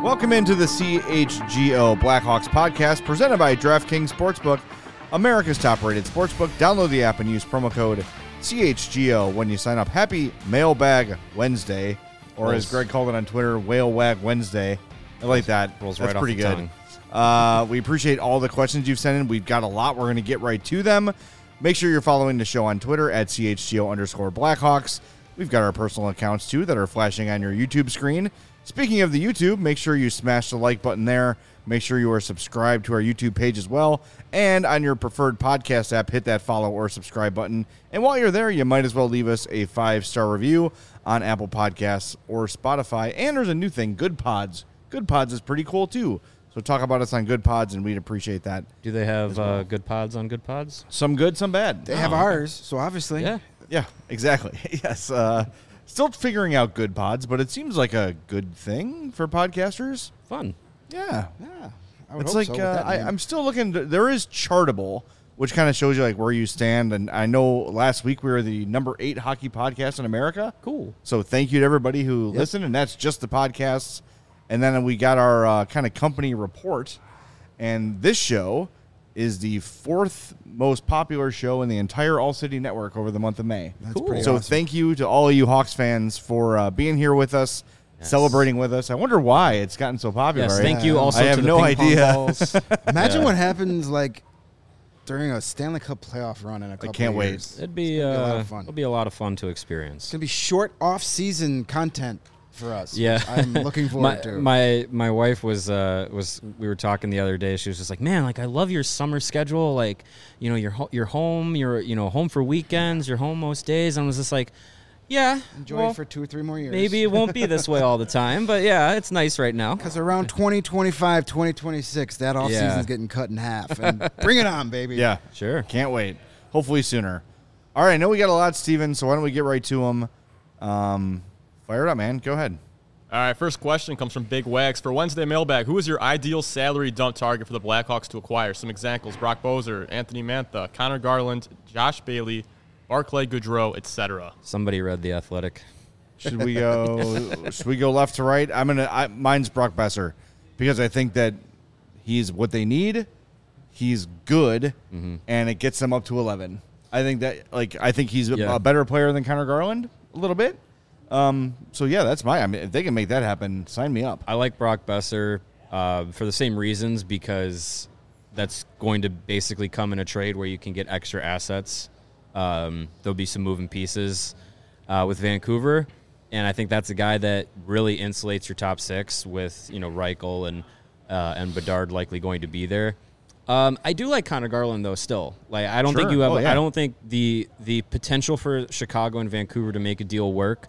Welcome into the CHGO Blackhawks podcast presented by DraftKings Sportsbook, America's top-rated sportsbook. Download the app and use promo code CHGO when you sign up. Happy Mailbag Wednesday, or as Greg called it on Twitter, Whale Wag Wednesday. I like that. Rolls That's right pretty off good. the We appreciate all the questions you've sent in. We've got a lot. We're going to get right to them. Make sure you're following the show on Twitter at CHGO_Blackhawks. We've got our personal accounts, too, that are flashing on your YouTube screen. Speaking of the YouTube, make sure you smash the like button there. Make sure you are subscribed to our YouTube page as well. And on your preferred podcast app, hit that follow or subscribe button. And while you're there, you might as well leave us a 5-star review on Apple Podcasts or Spotify. And there's a new thing, Good Pods. Good Pods is pretty cool, too. So talk about us on Good Pods, and we'd appreciate that. Do they have good pods on Good Pods? Some good, some bad. They have ours, so obviously. Yeah. Yeah, exactly. Yes. Still figuring out Good Pods, but it seems like a good thing for podcasters. Fun. Yeah. Yeah. I would It's hope like so with that name. I'm still looking. There is Chartable, which kind of shows you like where you stand. And I know last week we were the number 8 hockey podcast in America. Cool. So thank you to everybody who listened, and that's just the podcasts. And then we got our kind of company report, and this show is the 4th most popular show in the entire All City Network over the month of May. That's Cool. pretty So awesome. thank you to all of you Hawks fans for being here with us, celebrating with us. I wonder why it's gotten so popular. Yes, right? thank you also I have to the no ping pong idea. balls. Imagine Yeah. what happens like during a Stanley Cup playoff run in a couple can't of wait. years. It'd be a lot of fun. It'll be a lot of fun to experience. It's going to be short off-season content for us. Yeah. which I'm looking forward to. My wife was we were talking the other day. She was just like, man, like I love your summer schedule. Like, you know, you're home. You're home for weekends. You're home most days. And I was just like, yeah, Enjoy well, it for 2 or 3 more years. maybe it won't be this way all the time. But yeah, it's nice right now. Because around 2025, 2026, that off-season's Yeah. getting cut in half. And bring it on, baby. Yeah, Sure. can't wait. Hopefully sooner. All right, I know we got a lot, Steven, so why don't we get right to them? Fire it up, man. Go ahead. All right, first question comes from Big Wags. For Wednesday mailbag, who is your ideal salary dump target for the Blackhawks to acquire? Some examples: Brock Boeser, Anthony Mantha, Connor Garland, Josh Bailey, Barclay Goodrow, etc. Somebody read The Athletic. Should we go? Should we go left to right? Mine's Brock Besser because I think that he's what they need. He's good, and it gets them up to 11. I think that I think he's a better player than Connor Garland a little bit. So yeah, that's if they can make that happen, sign me up. I like Brock Besser for the same reasons, because that's going to basically come in a trade where you can get extra assets. There'll be some moving pieces with Vancouver, and I think that's a guy that really insulates your top 6 with Reichel and Bedard likely going to be there. I do like Connor Garland though. Still, I don't think you have. I don't think the potential for Chicago and Vancouver to make a deal work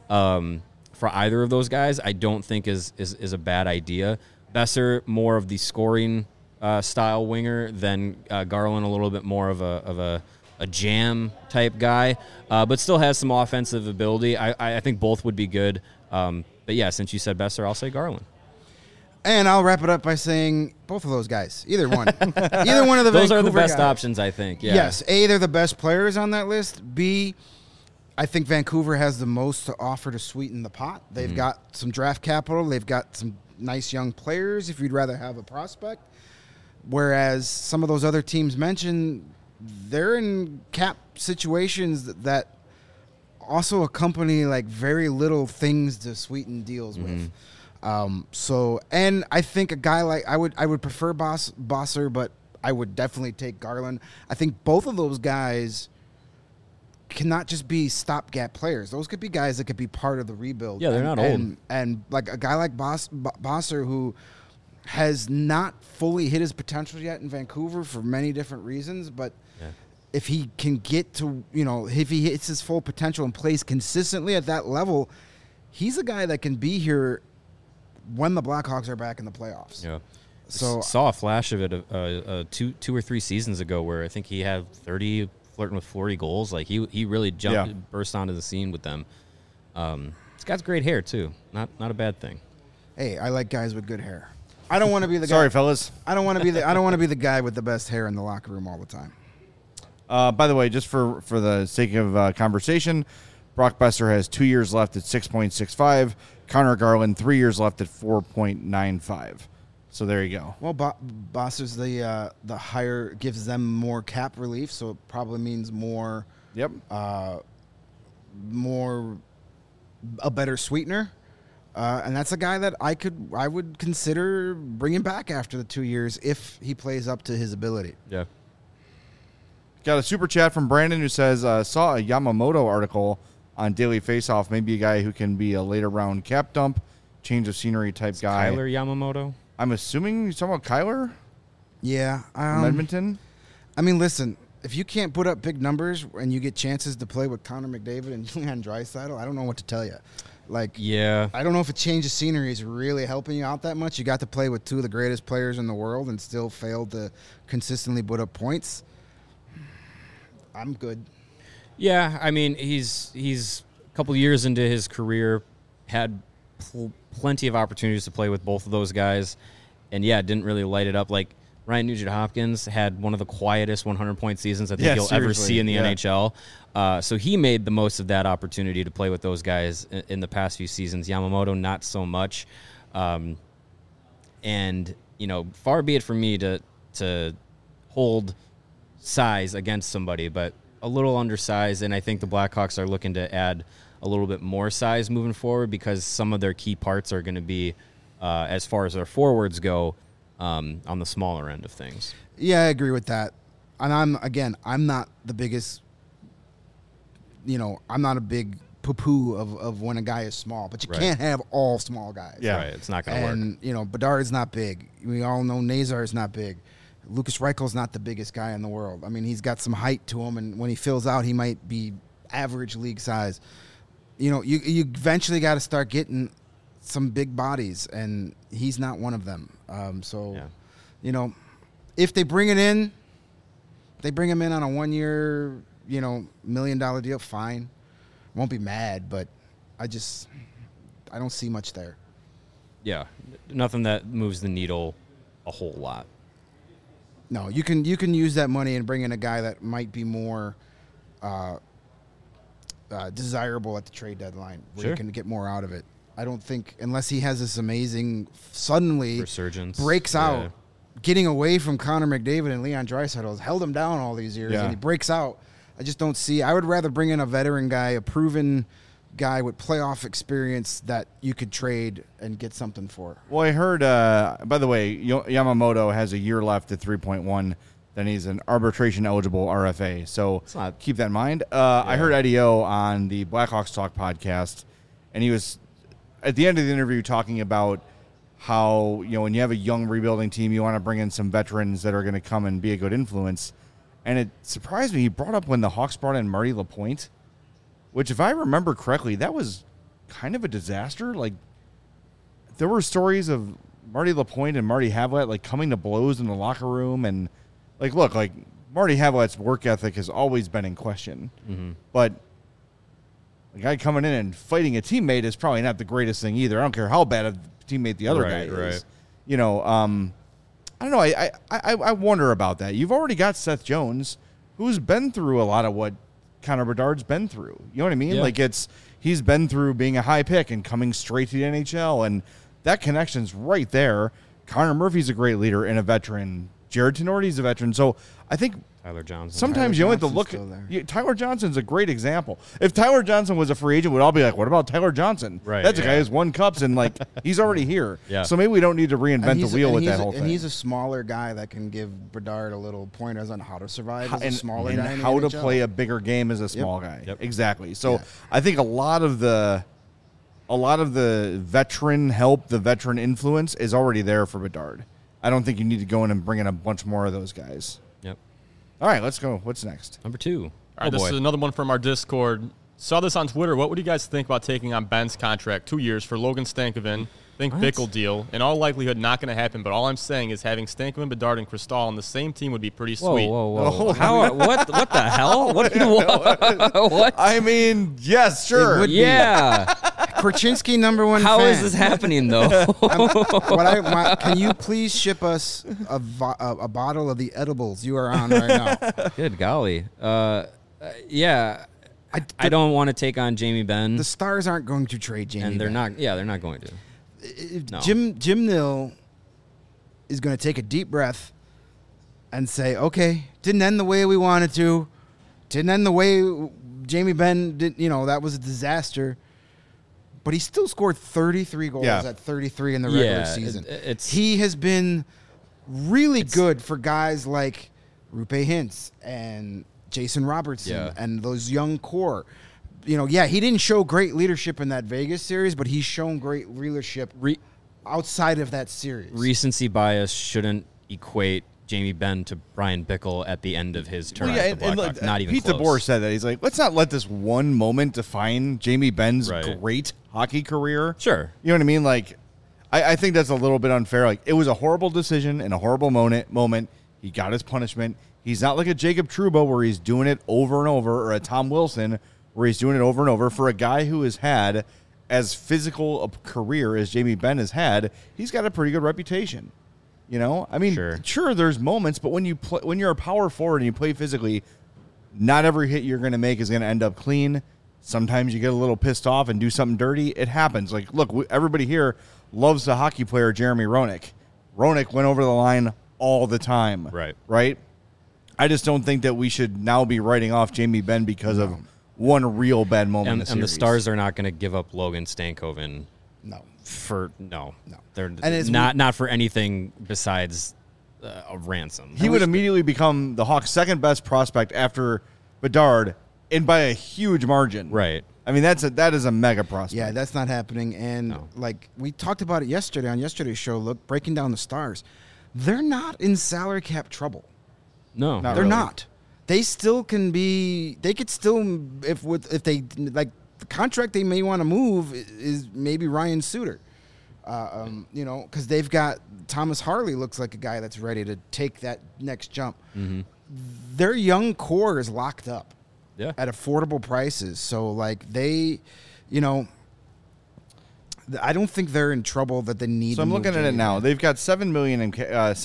for either of those guys, I don't think is a bad idea. Besser more of the scoring style winger than Garland, a little bit more of a jam type guy, but still has some offensive ability. I think both would be good. But yeah, since you said Besser, I'll say Garland. And I'll wrap it up by saying both of those guys. Either one. Either one of the Those Vancouver are the best guys. options, I think. Yeah. Yes. A, they're the best players on that list. B, I think Vancouver has the most to offer to sweeten the pot. They've got some draft capital. They've got some nice young players if you'd rather have a prospect. Whereas some of those other teams mentioned, they're in cap situations that also accompany very little things to sweeten deals with. And I think a guy I would prefer Bosser, but I would definitely take Garland. I think both of those guys cannot just be stopgap players. Those could be guys that could be part of the rebuild. Yeah, they're not old. And like a guy like Bosser, who has not fully hit his potential yet in Vancouver for many different reasons, but if he can get to, if he hits his full potential and plays consistently at that level, he's a guy that can be here when the Blackhawks are back in the playoffs. Yeah. So saw a flash of it two or three seasons ago where I think he had 30, flirting with 40 goals. He really burst onto the scene with them. He's got great hair too. Not a bad thing. Hey, I like guys with good hair. I don't want to be the guy. Sorry, fellas. I don't want to be the guy with the best hair in the locker room all the time. By the way, just for the sake of conversation, Brock Besser has 2 years left at 6.65. Connor Garland, 3 years left at 4.95. So there you go. Well, Bosser's the higher gives them more cap relief, so it probably means more. Yep. More a better sweetener, and that's a guy that I would consider bringing back after the 2 years if he plays up to his ability. Yeah. Got a super chat from Brandon who says, saw a Yamamoto article on Daily Faceoff, maybe a guy who can be a later round cap dump, change of scenery type guy. Kyler Yamamoto? I'm assuming you're talking about Kyler Yeah, from Edmonton? I mean, listen, if you can't put up big numbers and you get chances to play with Connor McDavid and Leon Draisaitl, I don't know what to tell you. Like, Yeah. I don't know if a change of scenery is really helping you out that much. You got to play with two of the greatest players in the world and still failed to consistently put up points. I'm good. Yeah, I mean, he's a couple years into his career, had plenty of opportunities to play with both of those guys, and yeah, didn't really light it up. Like Ryan Nugent-Hopkins had one of the quietest 100-point seasons I think you'll ever see in the NHL. So he made the most of that opportunity to play with those guys in the past few seasons. Yamamoto, not so much. And, you know, far be it from me to hold size against somebody, but a little undersized, and I think the Blackhawks are looking to add a little bit more size moving forward because some of their key parts are going to be, as far as their forwards go, on the smaller end of things. Yeah, I agree with that. And I'm not the biggest, I'm not a big poo-poo of when a guy is small, but you can't have all small guys. Yeah. Right, it's not going to work. And, Bedard's not big. We all know Nazar's not big. Lucas Reichel's not the biggest guy in the world. I mean, he's got some height to him, and when he fills out, he might be average league size. You eventually got to start getting some big bodies, and he's not one of them. If they bring it in, they bring him in on a 1 year, $1 million deal, fine. Won't be mad, but I don't see much there. Yeah, nothing that moves the needle a whole lot. No, you can use that money and bring in a guy that might be more desirable at the trade deadline, where you can get more out of it. I don't think, unless he has this amazing suddenly resurgence, breaks out, getting away from Connor McDavid and Leon Draisaitl has held him down all these years, and he breaks out. I just don't see. I would rather bring in a veteran guy, a proven guy with playoff experience that you could trade and get something for. Well, I heard, by the way, Yamamoto has a year left at 3.1. Then he's an arbitration-eligible RFA. So keep that in mind. I heard Eddie O on the Blackhawks Talk podcast, and he was, at the end of the interview, talking about how, when you have a young rebuilding team, you want to bring in some veterans that are going to come and be a good influence. And it surprised me. He brought up when the Hawks brought in Marty LaPointe, which, if I remember correctly, that was kind of a disaster. Like, there were stories of Marty LaPointe and Marty Havlat, coming to blows in the locker room. And, look, Marty Havlat's work ethic has always been in question. Mm-hmm. But a guy coming in and fighting a teammate is probably not the greatest thing either. I don't care how bad a teammate the other guy is. Right. I don't know. I wonder about that. You've already got Seth Jones, who's been through a lot of what Connor Bedard's been through. You know what I mean? Yeah. He's been through being a high pick and coming straight to the NHL, and that connection's right there. Connor Murphy's a great leader and a veteran. Jared Tenorti's a veteran. So I think Tyler Johnson. Sometimes you only have to look at Tyler Johnson's a great example. If Tyler Johnson was a free agent, we'd all be like, what about Tyler Johnson? Right. That's a guy who's won cups and he's already here. Yeah. So maybe we don't need to reinvent the wheel with that whole thing. And he's a smaller guy that can give Bedard a little pointers on how to survive as a smaller guy. And how to play a bigger game as a small guy. Yep. Exactly. So I think a lot of the veteran help, the veteran influence is already there for Bedard. I don't think you need to go in and bring in a bunch more of those guys. Yep. All right, let's go. What's next? Number 2. All right, this is another one from our Discord. Saw this on Twitter. What would you guys think about taking on Ben's contract, 2 years, for Logan Stankoven? Think Bickle deal. In all likelihood, not going to happen, but all I'm saying is having Stankoven, Bedard, and Cristal on the same team would be pretty sweet. Whoa. What the hell? What? I mean, yes, sure. Yeah. Korchinski, number one How fan. is this happening, though? Can you please ship us a bottle of the edibles you are on right now? Good golly. Yeah. I don't want to take on Jamie Benn, The Stars aren't going to trade Jamie and they're Benn. not. Yeah, they're not going to. No. Jim Nill is going to take a deep breath and say, okay, didn't end the way we wanted to. Didn't end the way Jamie Benn did. That was a disaster. But he still scored 33 goals at 33 in the regular season. He has been really good for guys like Rupe Hintz and Jason Robertson and those young core. He didn't show great leadership in that Vegas series, but he's shown great leadership outside of that series. Recency bias shouldn't equate Jamie Benn to Brian Bickle at the end of his term at the Blackhawks. Not even Pete close. DeBoer said that. He's like, let's not let this one moment define Jamie Benn's great hockey career. Sure. You know what I mean? Like, I think that's a little bit unfair. Like, it was a horrible decision and a horrible moment. He got his punishment. He's not like a Jacob Trouba where he's doing it over and over, or a Tom Wilson where he's doing it over and over. For a guy who has had as physical a career as Jamie Benn has had, he's got a pretty good reputation. I mean, sure, there's moments, but when you're a power forward and you play physically, not every hit you're going to make is going to end up clean. Sometimes you get a little pissed off and do something dirty. It happens. Like, look, everybody here loves the hockey player Jeremy Roenick. Roenick went over the line all the time. Right? I just don't think that we should now be writing off Jamie Benn because of one real bad moment in the series. And the Stars are not going to give up Logan Stankoven. No. They're not for anything besides a ransom. He would immediately become the Hawks' second best prospect after Bedard, and by a huge margin. Right. I mean, that is a mega prospect. Yeah, that's not happening. And like we talked about it yesterday on yesterday's show, look, breaking down the Stars, they're not in salary cap trouble. No, they're not. They still can be. They could still, if they like. The contract they may want to move is maybe Ryan Suter, because they've got Thomas Harley looks like a guy that's ready to take that next jump. Mm-hmm. Their young core is locked up at affordable prices. So like they, I don't think they're in trouble that they need. So I'm looking at it now. They've got $7 million in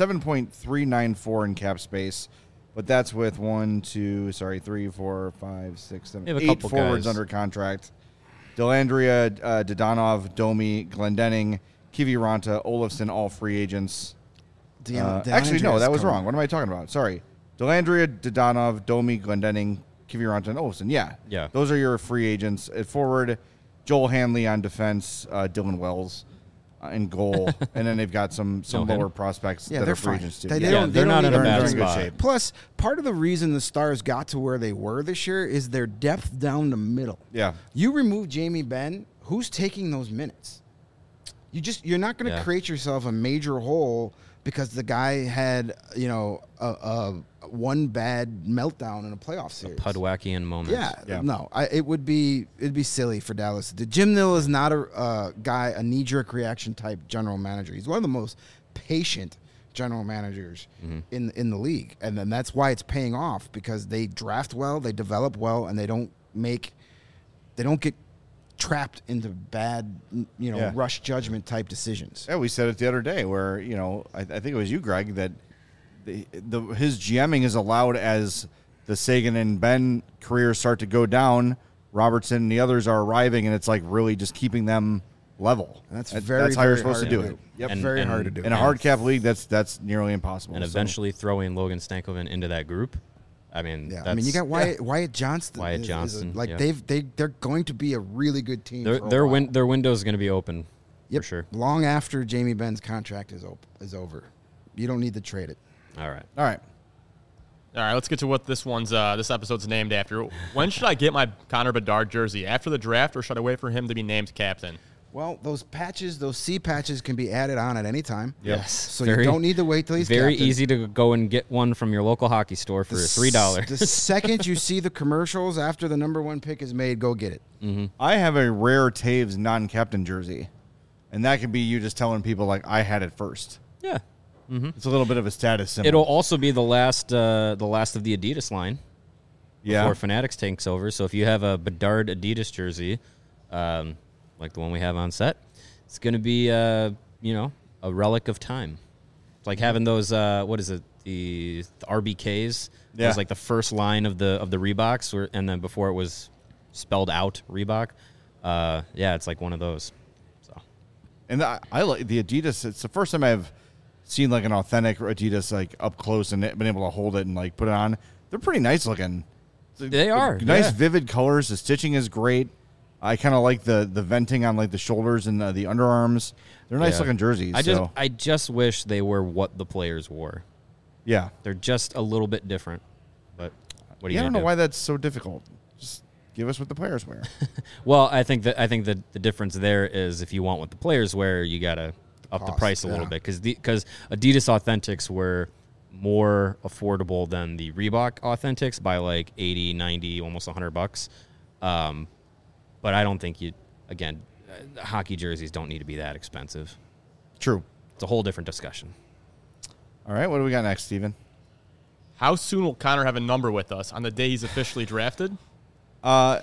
7.394 in cap space. But that's with 3, 4, 5, 6, 7, 8 forwards under contract. Dellandrea, Dodonov, Domi, Glendening, Kiviranta, Olofsson, all free agents. Actually, no, that was wrong. What am I talking about? Sorry. Dellandrea, Dodonov, Domi, Glendening, Kiviranta, and Olofsson. Yeah. Those are your free agents. At forward, Joel Hanley on defense, Dylan Wells in goal, and then they've got some lower prospects that are free agents too. They're not in a bad spot. Plus, part of the reason the Stars got to where they were this year is their depth down the middle. Yeah. You remove Jamie Benn, who's taking those minutes? You're not going to create yourself a major hole because the guy had, a one bad meltdown in a playoff series. A Pudwackian moment. Yeah. No, it'd be silly for Dallas. Jim Nill is not a knee-jerk reaction type general manager. He's one of the most patient general managers in the league, and then that's why it's paying off because they draft well, they develop well, and they don't get trapped into bad, rush judgment type decisions. Yeah, we said it the other day where, I think it was you, Greg, that his GMing is allowed as the Sagan and Ben careers start to go down. Robertson and the others are arriving, and it's like really just keeping them level. That's how you're supposed to do it. Yep, very hard to do. In a hard cap league, that's nearly impossible. And eventually throwing Logan Stankoven into that group. I mean, you got Wyatt Johnston. They're going to be a really good team. Their window is going to be open. For sure. Long after Jamie Benn's contract is over, you don't need to trade it. All right. All right, let's get to what this episode's named after. When should I get my Connor Bedard jersey? After the draft, or should I wait for him to be named captain? Well, those C patches can be added on at any time. Yes. So you don't need to wait till he's very captain. easy to go and get one from your local hockey store for $3. The second you see the commercials after the number one pick is made, go get it. Mm-hmm. I have a rare Taves non-captain jersey, and that could be you just telling people like I had it first. Yeah. Mm-hmm. It's a little bit of a status symbol. It'll also be the last of the Adidas line. Yeah. Before Fanatics takes over. So if you have a Bedard Adidas jersey, like the one we have on set, it's going to be a relic of time. It's like having those the RBKs. Yeah. It was like the first line of the Reeboks, and then before it was spelled out Reebok, yeah, it's like one of those. So, And I like the Adidas. It's the first time I've seen like an authentic Adidas like up close and been able to hold it and like put it on. They're pretty nice looking. They are, nice, yeah. vivid colors. The stitching is great. I kind of like the venting on like the shoulders and the underarms. They're nice Yeah. looking jerseys. I just wish they were what the players wore. Yeah. They're just a little bit different. But what do you I don't gonna know do? why that's so difficult. Just give us what the players wear. Well, I think that the difference there is if you want what the players wear, you gotta up the cost, price a little bit because Adidas Authentics were more affordable than the Reebok Authentics by like 80, 90, almost $100. But I don't think hockey jerseys don't need to be that expensive. True. It's a whole different discussion. All right. What do we got next, Steven? How soon will Connor have a number with us on the day he's officially drafted? I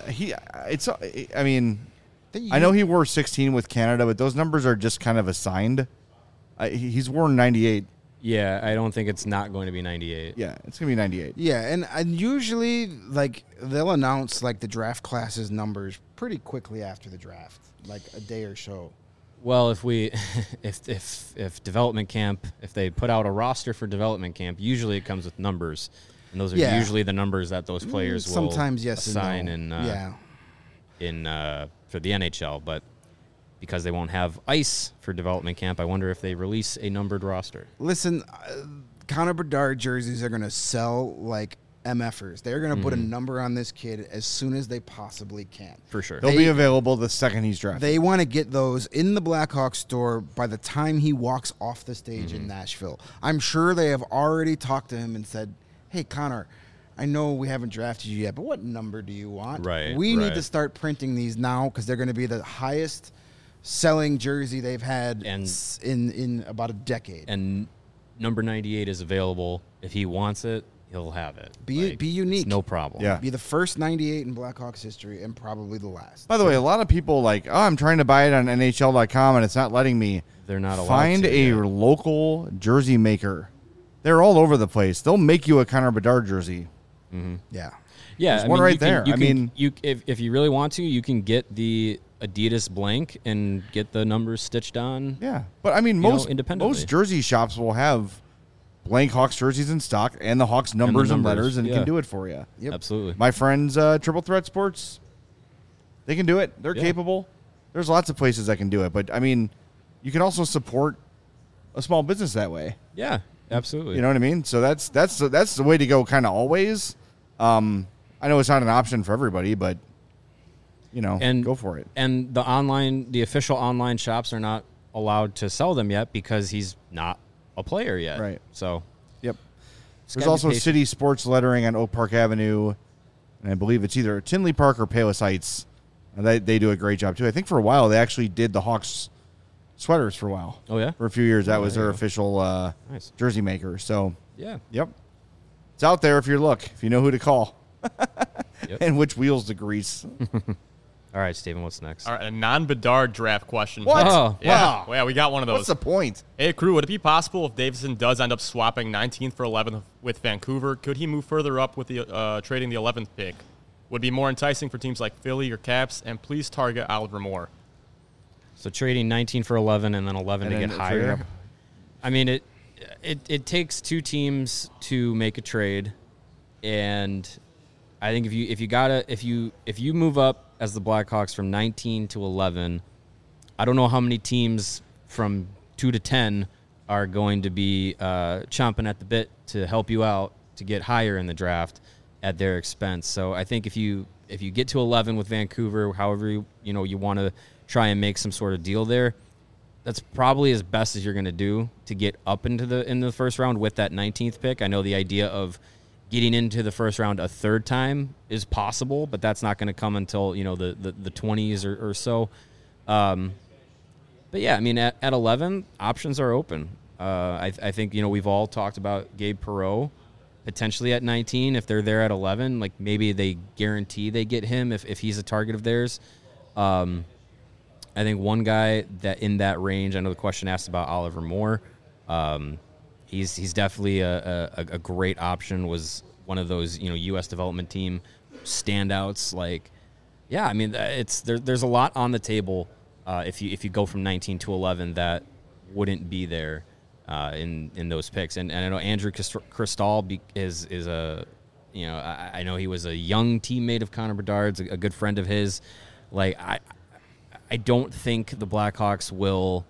mean, I know he wore 16 with Canada, but those numbers are just kind of assigned. He's worn 98. Yeah, I don't think it's not going to be 98. Yeah, it's going to be 98. Yeah, and usually like they'll announce like the draft classes numbers pretty quickly after the draft, like a day or so. Well, if development camp, if they put out a roster for development camp, usually it comes with numbers, and those are Yeah. usually the numbers that those players will Sometimes yes assign and no. for the NHL. But because they won't have ice for development camp, I wonder if they release a numbered roster. Listen, Connor Bedard jerseys are going to sell like MFers. They're going to put a number on this kid as soon as they possibly can. For sure. They'll be available the second he's drafted. They want to get those in the Blackhawks store by the time he walks off the stage in Nashville. I'm sure they have already talked to him and said, hey, Connor, I know we haven't drafted you yet, but what number do you want? Right, We need right. to start printing these now because they're going to be the highest selling jersey they've had And- in about a decade. And number 98 is available. If he wants it, he'll have it. Be it's unique. no problem. Yeah. Be the first 98 in Blackhawks history and probably the last. By the way, a lot of people like, I'm trying to buy it on NHL.com and it's not letting me. They're not allowed Find to, a yeah. local jersey maker. They're all over the place. They'll make you a Connor Bedard jersey. Yeah. Yeah, There's one right you can- there. you I can- mean- if you really want to, you can get the Adidas blank and get the numbers stitched on. Yeah, but I mean, know, most independently. jersey shops will have blank Hawks jerseys in stock and the Hawks numbers and, numbers, letters, and yeah. can do it for you. Yep. Absolutely. My friends, Triple Threat Sports, they can do it. They're Yeah. capable. There's lots of places that can do it, but I mean, you can also support a small business that way. Yeah, absolutely. You know what I mean? So that's the way to go, kind of always. I know it's not an option for everybody, but And- go for it. And the official online shops are not allowed to sell them yet because he's not a player yet. Right. So Yep. just There's gotta be also patient. City Sports lettering on Oak Park Avenue, and I believe it's either Tinley Park or Palos Heights. And they do a great job too. I think for a while they actually did the Hawks sweaters for a while. Oh, yeah? For a few years, that Oh, was there their you go. official Nice. jersey maker. So, Yeah. yep, it's out there if you look, if you know who to call, Yep. and which wheels to grease. All right, Steven, what's next? All right, a non-Bedard draft question. What? Oh, Yeah, wow. Well, yeah, we got one of those. What's the point? Hey, crew, would it be possible if Davidson does end up swapping 19th for 11th with Vancouver, could he move further up with the trading the 11th pick? Would be more enticing for teams like Philly or Caps, and please target Oliver Moore. So trading 19 for 11 and then 11 And to then get trade higher. up. I mean, it takes two teams to make a trade, and I think if you move up as the Blackhawks from 19 to 11, I don't know how many teams from 2 to 10 are going to be chomping at the bit to help you out to get higher in the draft at their expense. So I think if you get to 11 with Vancouver, however you want to try and make some sort of deal there, that's probably as best as you're going to do to get up into the first round with that 19th pick. I know the idea of getting into the first round a third time is possible, but that's not going to come until the 20s or so. But yeah, I mean at 11, options are open. I think we've all talked about Gabe Perreault potentially at 19 if they're there at 11. Like maybe they guarantee they get him if he's a target of theirs. I think one guy that in that range, I know the question asked about Oliver Moore. He's definitely a great option. Was one of those U.S. development team standouts. Like Yeah, I mean, there's a lot on the table if you go from 19 to 11 that wouldn't be there in those picks. And I know Andrew Cristal is a, you know, I know he was a young teammate of Connor Bedard's, a good friend of his. Like, I don't think the Blackhawks will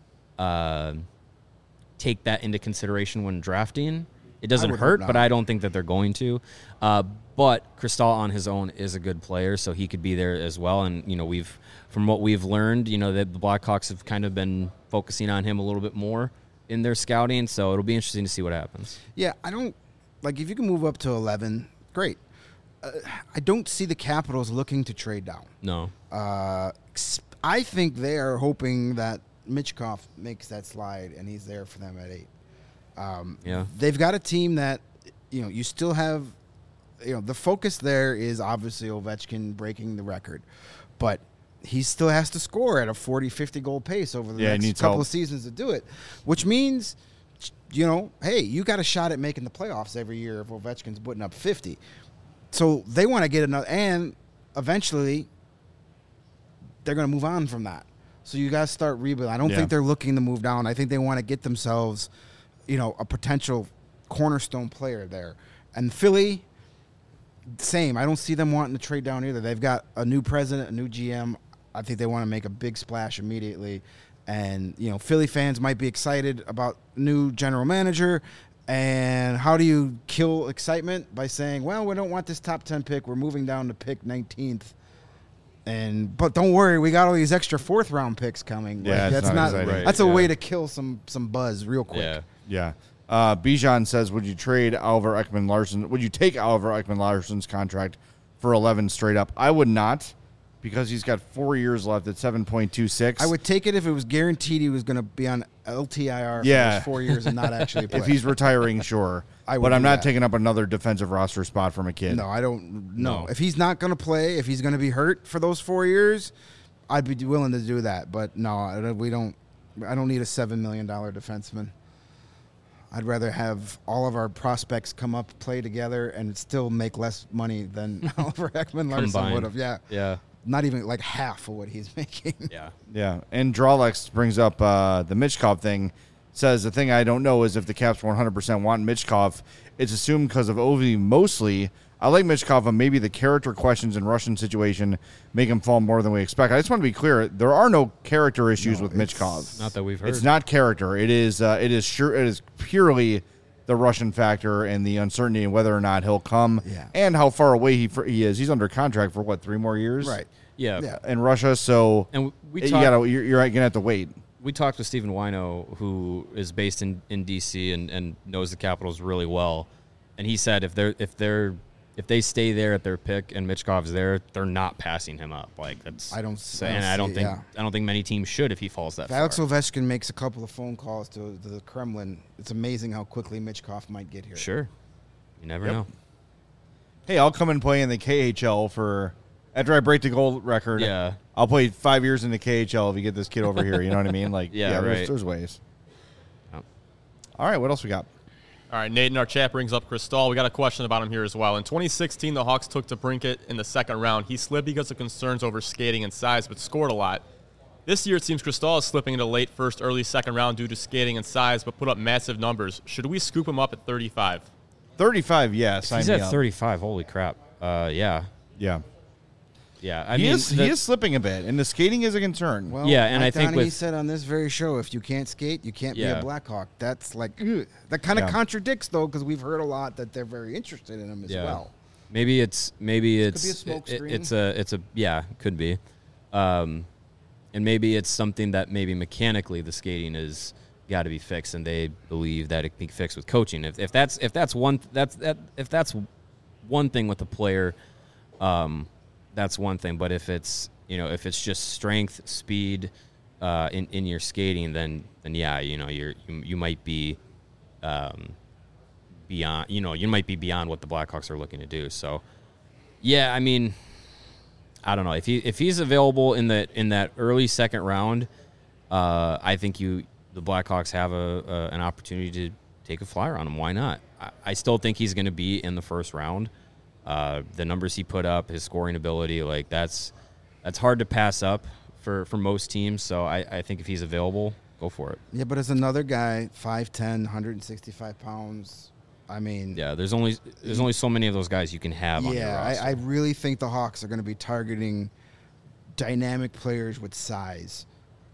take that into consideration when drafting. It doesn't hurt, but I don't think that they're going to. But Cristal on his own is a good player, so he could be there as well. And, you know, from what we've learned, you know, that the Blackhawks have kind of been focusing on him a little bit more in their scouting, so it'll be interesting to see what happens. Yeah, I don't like if you can move up to 11, great. I don't see the Capitals looking to trade down. No. I think they are hoping that Michkov makes that slide and he's there for them at 8. Yeah. They've got a team that, you know, you still have, you know, the focus there is obviously Ovechkin breaking the record, but he still has to score at a 40, 50 goal pace over the next couple of seasons to do it, which means, you know, hey, you got a shot at making the playoffs every year if Ovechkin's putting up 50. So they want to get another, and eventually they're going to move on from that. So you got to start rebuilding. I don't think they're looking to move down. I think they want to get themselves, you know, a potential cornerstone player there. And Philly, same. I don't see them wanting to trade down either. They've got a new president, a new GM. I think they want to make a big splash immediately. And, you know, Philly fans might be excited about new general manager. And how do you kill excitement? By saying, well, we don't want this top 10 pick. We're moving down to pick 19th. But don't worry, we got all these extra 4th-round picks coming. Yeah, like, that's a way to kill some buzz real quick. Yeah. Bijan says, would you take Oliver Ekman-Larsson's contract for 11 straight up? I would not, because he's got 4 years left at 7.26. I would take it if it was guaranteed he was going to be on LTIR for those 4 years and not actually play. If he's retiring, sure. But I'm not taking up another defensive roster spot from a kid. No, I don't. No. If he's not going to play, if he's going to be hurt for those 4 years, I'd be willing to do that. But no, I don't need a $7 million defenseman. I'd rather have all of our prospects come up, play together, and still make less money than Oliver Ekman-Larsson would have. Yeah. Not even like half of what he's making. Yeah. And Drawlex brings up the Michkov thing. Says the thing I don't know is if the Caps 100% want Michkov. It's assumed because of Ovi mostly. I like Michkov, but maybe the character questions and Russian situation make him fall more than we expect. I just want to be clear: there are no character issues with Michkov. Not that we've heard. It's not character. It is purely the Russian factor and the uncertainty in whether or not he'll come and how far away he is. He's under contract for 3 more years, Right? Yeah. In Russia. So And you're gonna have to wait. We talked with Stephen Wino, who is based in D.C. and knows the Capitals really well, and he said if they stay there at their pick and Michkov's there, they're not passing him up. Like that's I don't think many teams should if he falls that far. Alex Ovechkin makes a couple of phone calls to the Kremlin. It's amazing how quickly Michkov might get here. Sure, you never know. Hey, I'll come and play in the KHL after I break the goal record. Yeah. I'll play 5 years in the KHL if you get this kid over here. You know what I mean? Like, right. There's ways. Oh. All right, what else we got? All right, Nate in our chat brings up Cristal. We got a question about him here as well. In 2016, the Hawks took DeBrincat in the second round. He slipped because of concerns over skating and size, but scored a lot. This year, it seems Cristal is slipping into late first, early second round due to skating and size, but put up massive numbers. Should we scoop him up at 35? 35, yes. He's at 35. Holy crap. Yeah. Yeah. Yeah, he is slipping a bit, and the skating is a concern. Well, and I think he said on this very show, if you can't skate, you can't be a Blackhawk. That's like that kind of contradicts though, because we've heard a lot that they're very interested in him as well. Maybe it's could be a smoke screen. Could be, and maybe it's something that maybe mechanically the skating is got to be fixed, and they believe that it can be fixed with coaching. If that's one thing with the player. That's one thing, but if it's just strength, speed, in your skating, then you might be beyond what the Blackhawks are looking to do. So, yeah, I mean, I don't know if he's available in that early second round. I think the Blackhawks have an opportunity to take a flyer on him. Why not? I still think he's going to be in the first round. The numbers he put up, his scoring ability, like that's hard to pass up for most teams. So I think if he's available, go for it. Yeah, but as another guy, 5'10", 165 pounds, I mean... Yeah, there's only so many of those guys you can have on your roster. I really think the Hawks are going to be targeting dynamic players with size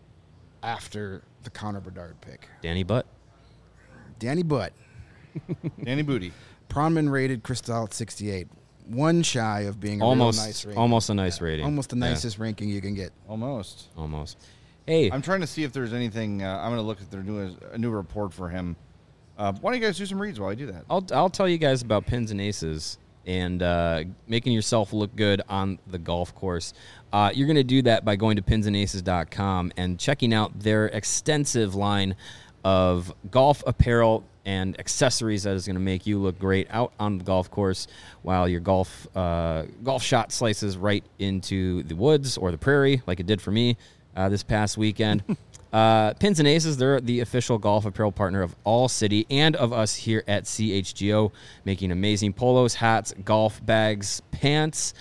after the Connor Bedard pick. Danny Butt. Danny Butt. Danny Booty. Pronman rated Crystal at 68. One shy of being a real nice rating. Almost a nice rating. Almost the nicest ranking you can get. Almost. Hey. I'm trying to see if there's anything. I'm going to look at a new report for him. Why don't you guys do some reads while I do that? I'll tell you guys about Pins and Aces and making yourself look good on the golf course. You're going to do that by going to pinsandaces.com and checking out their extensive line of golf apparel and accessories that is going to make you look great out on the golf course while your golf shot slices right into the woods or the prairie like it did for me this past weekend. Pins and Aces, they're the official golf apparel partner of All City and of us here at CHGO, making amazing polos, hats, golf bags, pants,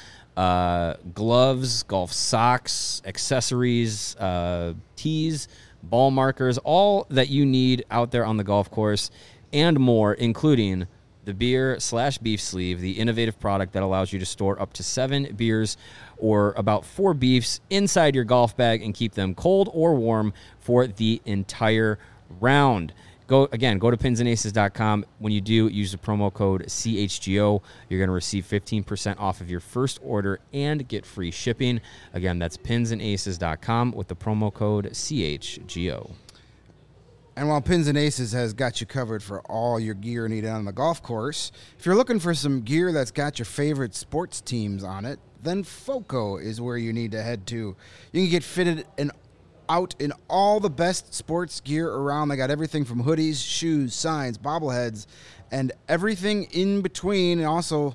gloves, golf socks, accessories, tees, ball markers, all that you need out there on the golf course and more, including the beer/beef sleeve, the innovative product that allows you to store up to 7 beers or about 4 beefs inside your golf bag and keep them cold or warm for the entire round. Go to pinsandaces.com. When you do, use the promo code CHGO. You're going to receive 15% off of your first order and get free shipping. Again, that's pinsandaces.com with the promo code CHGO. And while Pins and Aces has got you covered for all your gear needed on the golf course, if you're looking for some gear that's got your favorite sports teams on it, then FOCO is where you need to head to. You can get fitted out in all the best sports gear around. They got everything from hoodies, shoes, signs, bobbleheads, and everything in between. And also,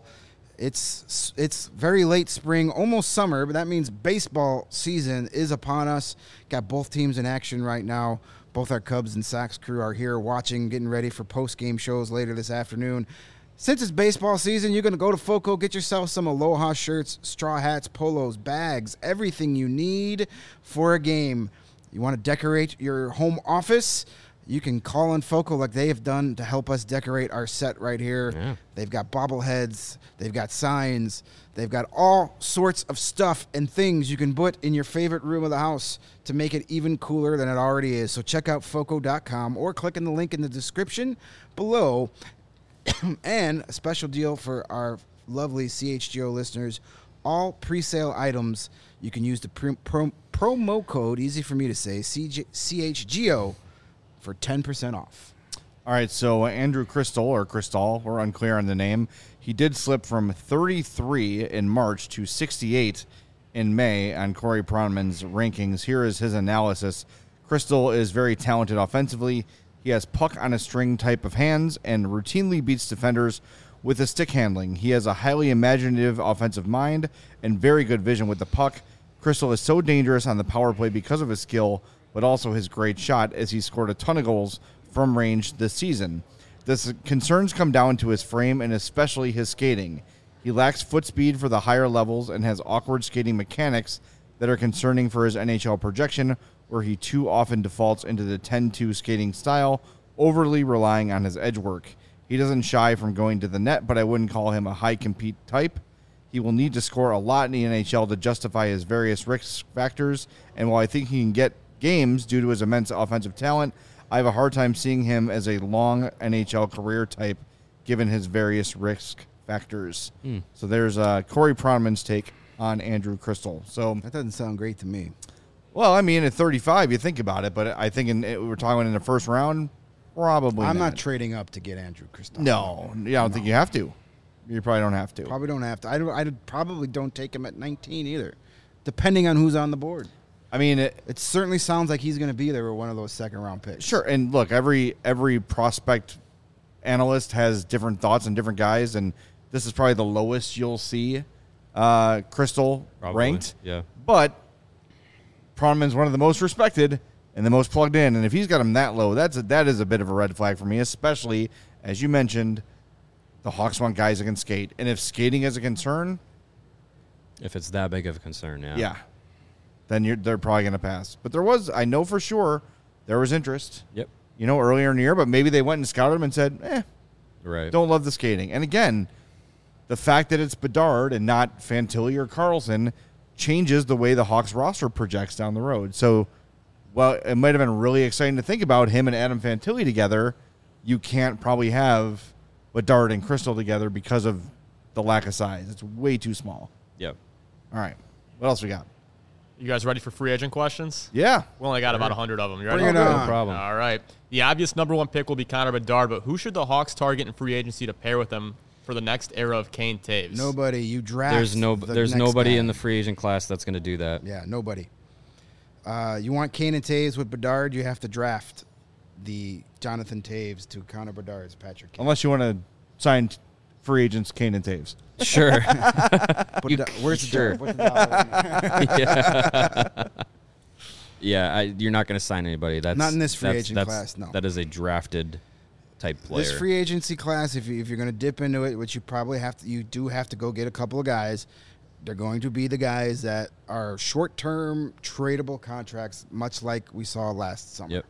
it's very late spring, almost summer, but that means baseball season is upon us. Got both teams in action right now. Both our Cubs and Sox crew are here watching, getting ready for post-game shows later this afternoon. Since it's baseball season, you're going to go to FOCO, get yourself some Aloha shirts, straw hats, polos, bags, everything you need for a game. You want to decorate your home office? You can call on FOCO like they have done to help us decorate our set right here. Yeah. They've got bobbleheads. They've got signs. They've got all sorts of stuff and things you can put in your favorite room of the house to make it even cooler than it already is. So check out FOCO.com or click on the link in the description below. And a special deal for our lovely CHGO listeners, all pre-sale items, you can use the promo code, easy for me to say, CHGO, for 10% off. All right, so Andrew Crystal, we're unclear on the name. He did slip from 33 in March to 68 in May on Corey Pronman's rankings. Here is his analysis. Crystal is very talented offensively. He has puck on a string type of hands and routinely beats defenders with his stick handling. He has a highly imaginative offensive mind and very good vision with the puck. Crystal is so dangerous on the power play because of his skill, but also his great shot, as he scored a ton of goals from range this season. The concerns come down to his frame and especially his skating. He lacks foot speed for the higher levels and has awkward skating mechanics that are concerning for his NHL projection, where he too often defaults into the 10-2 skating style, overly relying on his edge work. He doesn't shy from going to the net, but I wouldn't call him a high-compete type. He will need to score a lot in the NHL to justify his various risk factors, and while I think he can get games due to his immense offensive talent, I have a hard time seeing him as a long NHL career type given his various risk factors. So there's Corey Pronman's take on Andrew Crystal. So that doesn't sound great to me. Well, I mean, at 35, you think about it, but I think we're talking in the first round, probably I'm not trading up to get Andrew Crystal. No, I don't think you have to. You probably don't have to. Probably don't have to. I probably don't take him at 19 either, depending on who's on the board. I mean, it certainly sounds like he's going to be there with one of those second-round picks. Sure, and look, every prospect analyst has different thoughts on different guys, and this is probably the lowest you'll see Crystal ranked. Yeah. But Pronman's one of the most respected and the most plugged in, and if he's got him that low, that is a bit of a red flag for me, especially, as you mentioned, The Hawks want guys that can skate. And if skating is a concern, If it's that big of a concern, yeah. then they're probably going to pass. But I know for sure, there was interest, Yep. Earlier in the year, but maybe they went and scouted him and said, Right. don't love the skating. And again, the fact that it's Bedard and not Fantilli or Carlson changes the way the Hawks roster projects down the road. So, well, it might have been really exciting to think about him and Adam Fantilli together. You can't probably have Bedard and Crystal together because of the lack of size. It's way too small. Yep. All right. What else we got? You guys ready for free agent questions? Yeah. We only got about 100 of them. You ready? Bring it on. No problem. All right. The obvious number one pick will be Connor Bedard, but who should the Hawks target in free agency to pair with him for the next era of Kane Taves? Nobody. You draft. There's next nobody guy. in the free agent class that's going to do that. Yeah, nobody. You want Kane and Taves with Bedard, you have to draft the Jonathan Taves to Connor Bedard's Patrick Kane. Unless you want to sign free agents Kane and Taves. Sure. Where's the sure. Put the dollar in there. Yeah, you're not going to sign anybody. That's Not in this free that's- agent that's- class, no. That is a drafted type player. This free agency class, if you're going to dip into it, which you probably have to, you do have to go get a couple of guys. They're going to be the guys that are short-term tradable contracts, much like we saw last summer. Yep.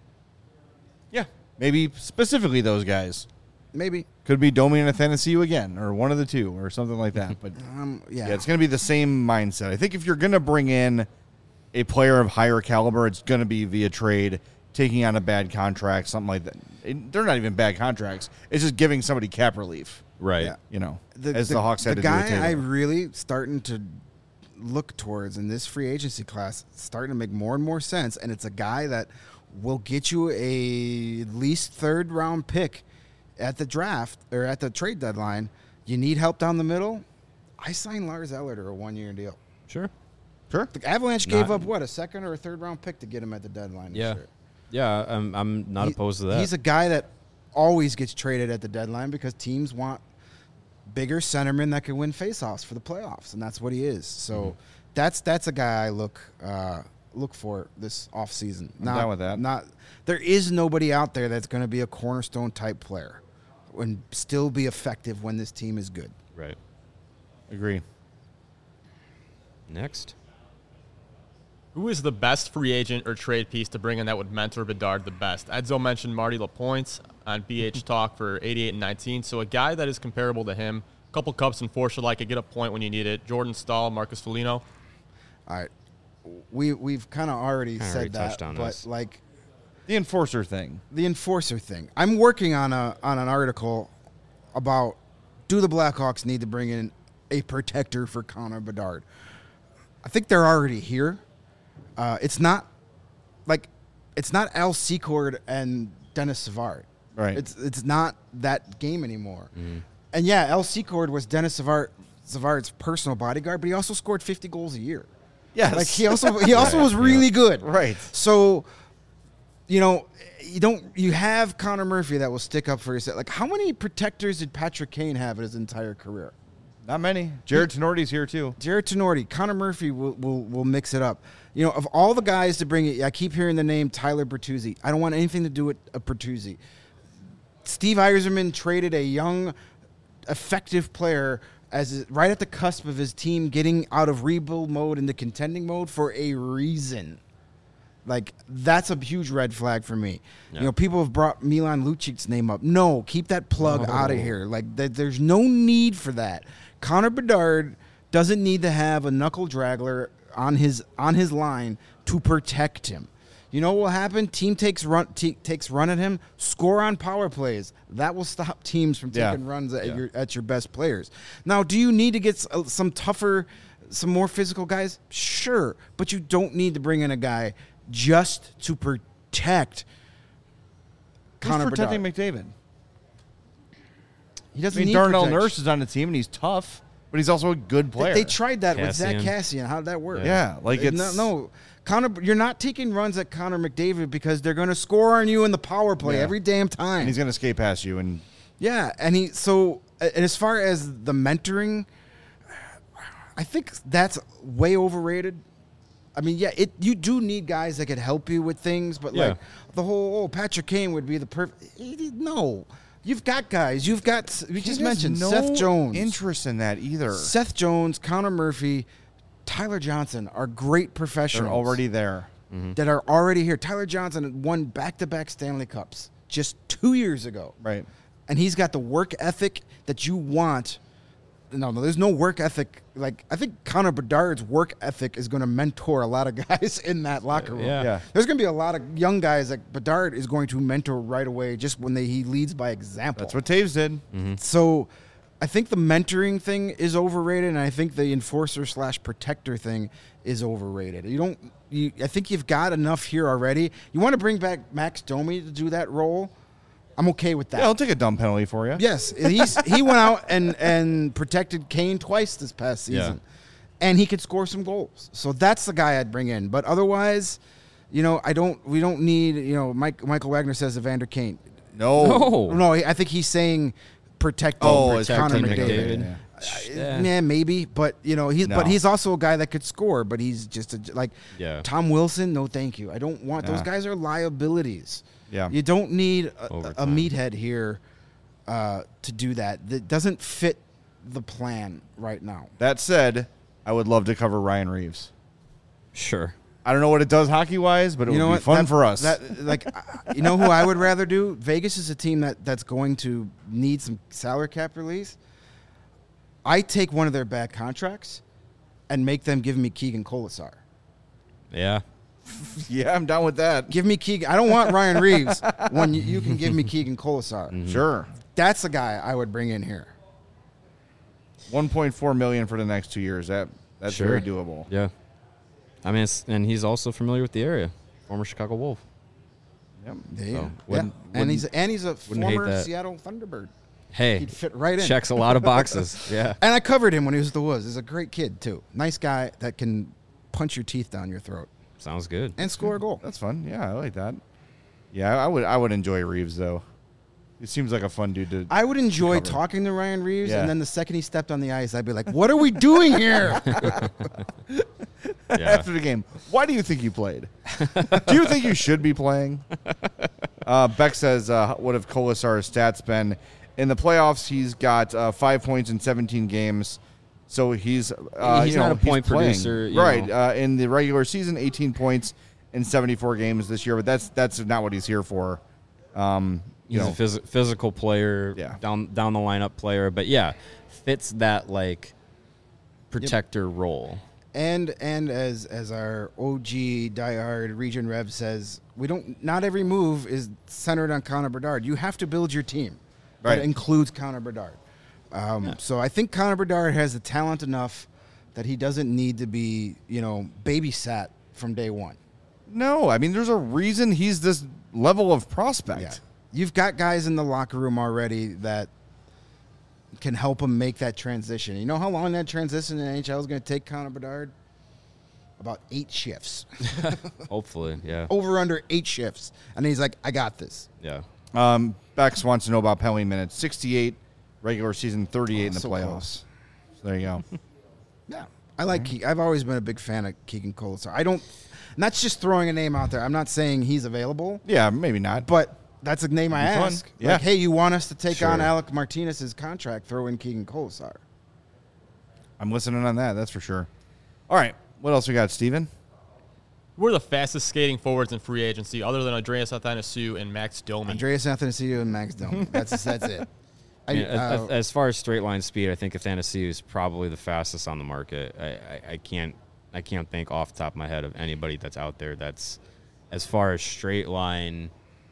Yeah. Maybe specifically those guys. Maybe. Could be Domi and Athanasiou again, or one of the two, or something like that. But Yeah. yeah, it's going to be the same mindset. I think if you're going to bring in a player of higher caliber, it's going to be via trade, taking on a bad contract, something like that. They're not even bad contracts. It's just giving somebody cap relief, Right. Yeah. as the Hawks had the to do with guy Taylor. I really starting to look towards in this free agency class, starting to make more and more sense, and it's a guy that will get you a at least third round pick at the draft or at the trade deadline. You need help down the middle. I signed Lars Eller to a 1-year deal. Sure. Sure. The Avalanche gave Not- up a second or a third round pick to get him at the deadline. Yeah. This year. Yeah, I'm not opposed to that. He's a guy that always gets traded at the deadline because teams want bigger centermen that can win faceoffs for the playoffs, and that's what he is. So that's a guy I look for this offseason. I'm down with that. There is nobody out there that's going to be a cornerstone type player and still be effective when this team is good. Right. Agree. Next. Who is the best free agent or trade piece to bring in that would mentor Bedard the best? Edzo mentioned Marty LaPointe on BH Talk for 88 and 19. So a guy that is comparable to him. A couple cups and Forsha like could get a point when you need it. Jordan Stahl, Marcus Foligno. All right. We've kind of already Kinda said already that, touched on but this. like The enforcer thing. the enforcer thing. I'm working on an article about do the Blackhawks need to bring in a protector for Connor Bedard. I think they're already here. It's not Al Secord and Dennis Savard. Right. It's not that game anymore. And yeah, Al Secord was Dennis Savard's personal bodyguard, but he also scored 50 goals a year. Yes. Like he also was really good. Right. So, you have Connor Murphy that will stick up for yourself. Like how many protectors did Patrick Kane have in his entire career? Not many. Jared Tenorti's here too. Jared Tenorti, Connor Murphy will mix it up. Of all the guys to bring it, I keep hearing the name Tyler Bertuzzi. I don't want anything to do with a Bertuzzi. Steve Yzerman traded a young, effective player right at the cusp of his team getting out of rebuild mode into contending mode for a reason. Like, that's a huge red flag for me. Yeah. People have brought Milan Lucic's name up. No, keep that plug out of here. Like, there's no need for that. Connor Bedard doesn't need to have a knuckle draggler on his line to protect him. You know what will happen? Team takes run at him, score on power plays. That will stop teams from taking runs at your best players. Now, do you need to get some tougher, some more physical guys? Sure, but you don't need to bring in a guy just to protect Connor Who's protecting Bedard. McDavid? He doesn't I mean, need Darnell protection. Nurse is on the team, and he's tough, but he's also a good player. They tried that with Zach Cassian. Cassian. How did that work? Yeah, like it's no. Connor, you're not taking runs at Connor McDavid because they're going to score on you in the power play Yeah. every damn time. and he's going to skate past you. And Yeah, and as far as the mentoring, I think that's way overrated. I mean, yeah, you do need guys that could help you with things, but Yeah. like the whole Patrick Kane would be the perfect. No, You've got guys. We just He has mentioned no Seth Jones. interest in that either. Seth Jones, Connor Murphy, Tyler Johnson are great professionals. They're already there. that are already here. Tyler Johnson won back-to-back Stanley Cups just 2 years ago. Right. And he's got the work ethic that you want. No, there's no work ethic. Like, I think Connor Bedard's work ethic is going to mentor a lot of guys in that locker room. Yeah. There's going to be a lot of young guys that Bedard is going to mentor right away just when he leads by example. That's what Taves did. So I think the mentoring thing is overrated, and I think the enforcer/protector thing is overrated. I think you've got enough here already. You want to bring back Max Domi to do that role? I'm okay with that. Yeah, I'll take a dumb penalty for you. Yes, he went out and protected Kane twice this past season, and he could score some goals. So that's the guy I'd bring in. But otherwise, we don't need, Michael Wagner says Evander Kane. No, I think he's saying protect Connor McDavid. Yeah, maybe, but he's also a guy that could score. But he's just Tom Wilson. No, thank you. I don't want those guys are liabilities. Yeah. You don't need a meathead here to do that. That doesn't fit the plan right now. That said, I would love to cover Ryan Reeves. Sure. I don't know what it does hockey-wise, but it would be fun for us. You know who I would rather do? Vegas is a team that's going to need some salary cap release. I take one of their bad contracts and make them give me Keegan Colasar. Yeah. Yeah, I'm down with that. Give me Keegan. I don't want Ryan Reeves when you can give me Keegan Colasar. Mm-hmm. Sure. That's the guy I would bring in here. $1.4 million for the next 2 years. That's Sure. very doable. Yeah. I mean, and he's also familiar with the area. Former Chicago Wolf. Yep. And he's a wouldn't hate former that. Seattle Thunderbird. Hey, He'd fit right in. checks a lot of boxes. Yeah. And I covered him when he was at the Woods. He's a great kid too. Nice guy that can punch your teeth down your throat Sounds good. and score a goal. That's fun. Yeah, I like that. Yeah, I would enjoy Reeves though. He seems like a fun dude to. I would enjoy cover. talking to Ryan Reeves, Yeah. and then the second he stepped on the ice, I'd be like, "What are we doing here?" Yeah. After the game, why do you think you played? Do you think you should be playing? Beck says, what have Colasar's stats been? In the playoffs, he's got 5 points in 17 games. So he's not a point playing. producer, you right? know. In the regular season, 18 points in 74 games this year. But that's not what he's here for. He's a physical player, Yeah. down the lineup player, but yeah, fits that like protector role. And as our OG diehard Region Rev says, not every move is centered on Connor Bedard. You have to build your team. Right. That includes Connor Bedard. So I think Connor Bedard has the talent enough that he doesn't need to be, babysat from day one. No, I mean, there's a reason he's this level of prospect. Yeah. You've got guys in the locker room already that can help him make that transition. You know how long that transition in NHL is going to take Connor Bedard? About 8 shifts. Hopefully, yeah. Over under 8 shifts. And he's like, I got this. Yeah. Bex wants to know about penalty minutes. 68 regular season, 38 in the so playoffs. close. So there you go. Yeah. I like Keegan. I've always been a big fan of Keegan Colasar. And that's just throwing a name out there. I'm not saying he's available, Yeah, maybe not. but that's a name I Be fun. ask. Yeah. Like, hey, you want us to take Sure. on Alec Martinez's contract, throw in Keegan Colasar. I'm listening on that. That's for sure. All right. What else we got, Steven? Who are the fastest skating forwards in free agency other than Andreas Athanasiou and Max Domi? Andreas Athanasiou and Max Domi. That's it. As far as straight line speed, I think Athanasiou is probably the fastest on the market. I can't think off the top of my head of anybody that's out there that's as far as straight line,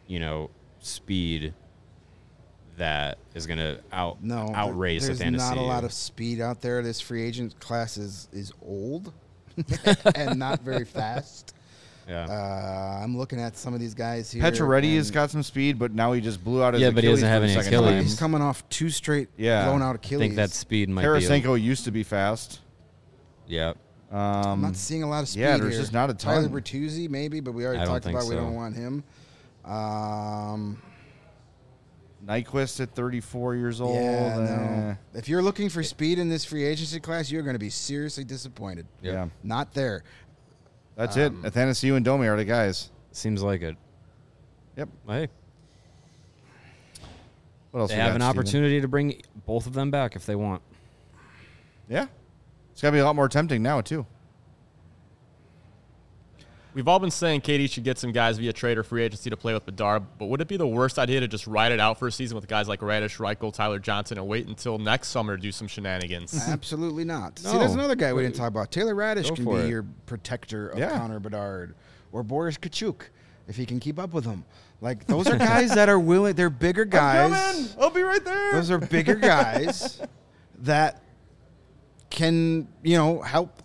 speed that is going to outrace there's Athanasiou. not a lot of speed out there. This free agent class is old and not very fast. Yeah. I'm looking at some of these guys here. Pacioretty has and got some speed, but now he just blew out his Yeah, Achilles but he doesn't for have the any second Achilles. time. He's coming off 2 straight Yeah. blown out I Achilles. think that speed might Tarasenko used to be fast. Yeah. I'm not seeing a lot of speed yeah, there's here. just not a Tyler ton. Bertuzzi, maybe, but we already I don't talked think about we so. don't want him. Nyquist at 34 years old. Yeah, eh. no. If you're looking for speed in this free agency class, you're going to be seriously disappointed. Yeah. Not there. That's it. Athanasiou and Domi are the guys. Seems like it. Yep. Hey. What else They we have got, an Steven? opportunity to bring both of them back if they want. Yeah. It's got to be a lot more tempting now, too. We've all been saying KD should get some guys via trade or free agency to play with Bedard, but would it be the worst idea to just ride it out for a season with guys like Radish, Reichel, Tyler Johnson, and wait until next summer to do some shenanigans? Absolutely not. No. See, there's another guy we didn't talk about. Taylor Radish Go can for be it. your protector of Yeah. Connor Bedard, or Boris Kachuk, if he can keep up with him. Like, those are guys that are willing. They're bigger guys. I'll be right there. Those are bigger guys that can, help,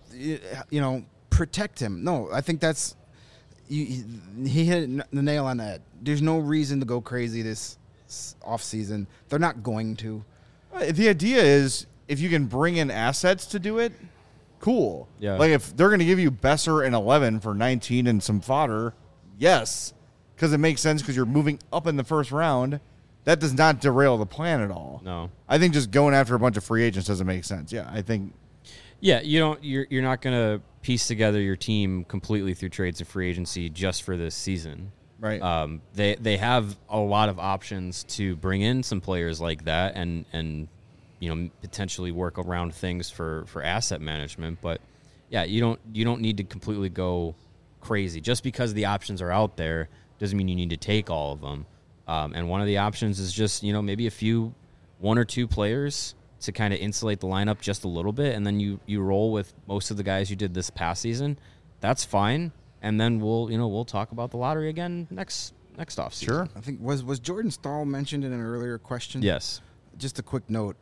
protect him. No, I think that's he hit the nail on the head. There's no reason to go crazy this offseason. They're not going to. The idea is if you can bring in assets to do it, cool. Yeah. Like if they're going to give you Besser and 11 for 19 and some fodder, yes, because it makes sense because you're moving up in the first round. That does not derail the plan at all. No. I think just going after a bunch of free agents doesn't make sense. Yeah, I think. Yeah, you're not going to piece together your team completely through trades and free agency just for this season. Right. They have a lot of options to bring in some players like that and potentially work around things for asset management. But yeah, you don't need to completely go crazy just because the options are out there. Doesn't mean you need to take all of them. And one of the options is just maybe one or two players to kind of insulate the lineup just a little bit, and then you roll with most of the guys you did this past season. That's fine. And then we'll talk about the lottery again next offseason. Sure. I think was Jordan Stahl mentioned in an earlier question? Yes. Just a quick note.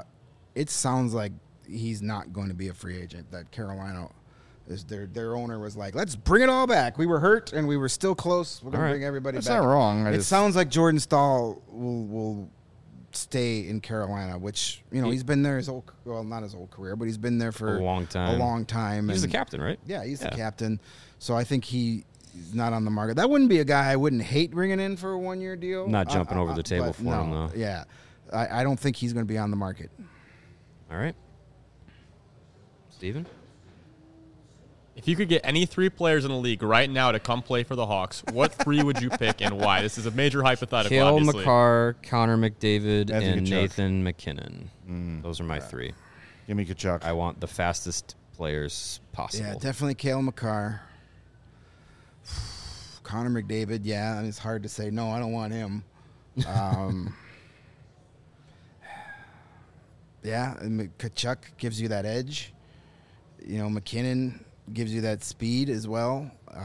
It sounds like he's not going to be a free agent. That Carolina is their owner was like, let's bring it all back. We were hurt and we were still close. We're going All to right. bring everybody That's back. not wrong. It sounds like Jordan Stahl will stay in Carolina, which he's been there not his whole career, but he's been there for A long time. He's the and- captain, right? Yeah, he's the captain. So I think he's not on the market. That wouldn't be a guy I wouldn't hate bringing in for a 1-year deal. Not jumping over the table but for him, though. Yeah, I don't think he's going to be on the market. All right. Steven? If you could get any three players in the league right now to come play for the Hawks, what three would you pick and why? This is a major hypothetical, Cale obviously. Makar, Connor McDavid, That's a and good choice. Nathan McKinnon. Those are my three. Give me Kachuk. I want the fastest players possible. Yeah, definitely Cale Makar. Connor McDavid, yeah, and it's hard to say no. I don't want him. Yeah, and Kachuk gives you that edge. McKinnon gives you that speed as well.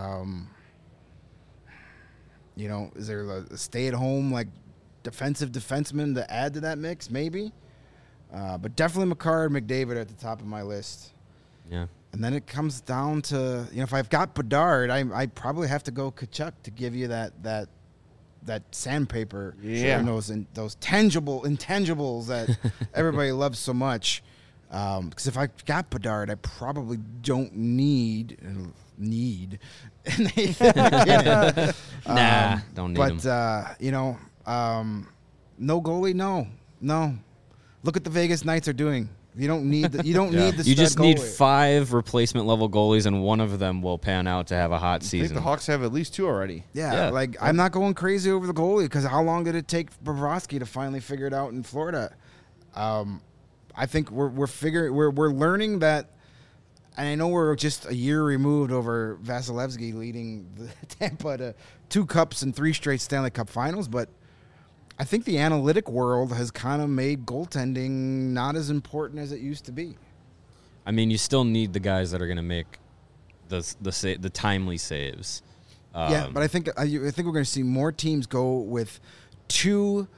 Is there a stay-at-home defensive defenseman to add to that mix? Maybe, but definitely Makar and McDavid are at the top of my list. Yeah. And then it comes down to if I've got Bedard, I probably have to go Kachuk to give you that sandpaper. Yeah. And those intangibles that everybody loves so much. Because if I've got Bedard, I probably don't need Nathan McKinnon. Don't need him. But no goalie, no. Look at the Vegas Knights are doing. You don't need the. You don't need the. You stud just need goalie. 5 replacement level goalies, and one of them will pan out to have a hot I think season. the Hawks have at least 2 already. Yeah, I'm not going crazy over the goalie because how long did it take Bobrovsky to finally figure it out in Florida? I think we're learning that, and I know we're just a year removed over Vasilevsky leading the Tampa to 2 cups and 3 straight Stanley Cup Finals, but I think the analytic world has kind of made goaltending not as important as it used to be. I mean, you still need the guys that are going to make the timely saves. Yeah, but I think we're going to see more teams go with 2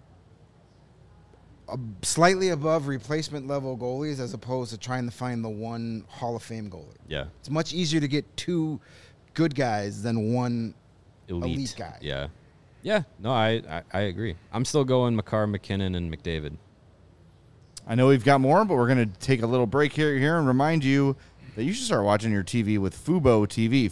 slightly above replacement level goalies as opposed to trying to find the one Hall of Fame goalie. Yeah. It's much easier to get 2 good guys than one elite guy. Yeah. Yeah. No, I agree. I'm still going Makar, McKinnon, and McDavid. I know we've got more, but we're going to take a little break here and remind you that you should start watching your TV with Fubo TV.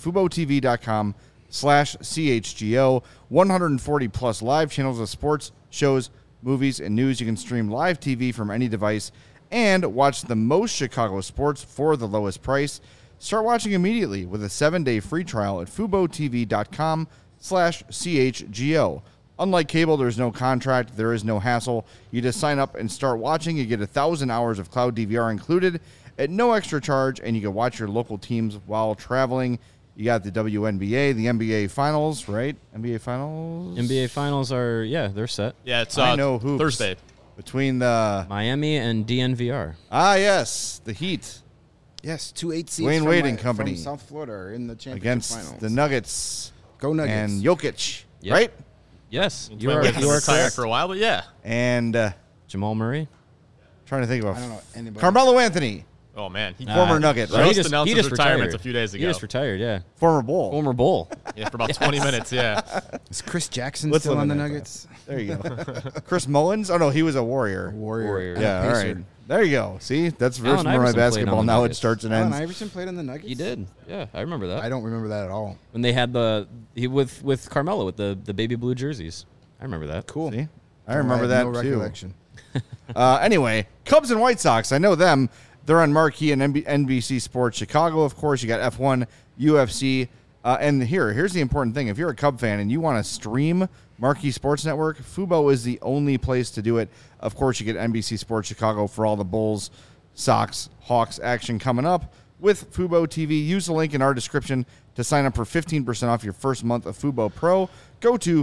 FuboTV.com/CHGO. 140 plus live channels of sports, shows, movies, and news. You can stream live TV from any device and watch the most Chicago sports for the lowest price. Start watching immediately with a 7-day free trial at FuboTV.com/CHGO. Unlike cable, there's no contract, there is no hassle. You just sign up and start watching. You get 1,000 hours of cloud DVR included at no extra charge, and you can watch your local teams while traveling. You got the WNBA, the NBA Finals, right? NBA Finals? NBA Finals are, they're set. Yeah, it's I know hoops. Thursday. Between the... Miami and DNVR. Yes, the Heat. Yes, 2 8 seeds Wayne from, Wade and company. from South Florida are in the championship Against finals. the Nuggets. Go Nuggets. And Jokic, Yep. right? Yes, Wayne you are Wade's been retired correct. for a while, but yeah. And Jamal Murray. trying to think of I don't know anybody. Carmelo Anthony, Oh, man. He former Nugget, He right? just announced his retirement a few days He ago. just retired, yeah. Former Bull. Former Bull. Yeah, for about 20 minutes, yeah. Is Chris Jackson Let's still on the eliminate Nuggets? There you go. Chris Mullins? Oh, no, he was a Warrior. Warrior. Yeah, all Pacer. right. There you go. See, that's Allen version of my Iverson played on basketball the knowledge Nuggets. starts and Allen ends. Iverson played on the Nuggets? He did. Yeah, I remember that. I don't remember that at all. When they had with Carmelo with the baby blue jerseys. I remember that. Cool. See? I remember that no too. recollection. Anyway, Cubs and White Sox. I know them. They're on Marquee and NBC Sports Chicago, of course. You got F1, UFC. And here's the important thing. If you're a Cub fan and you want to stream Marquee Sports Network, Fubo is the only place to do it. Of course, you get NBC Sports Chicago for all the Bulls, Sox, Hawks action coming up with Fubo TV. Use the link in our description to sign up for 15% off your first month of Fubo Pro. Go to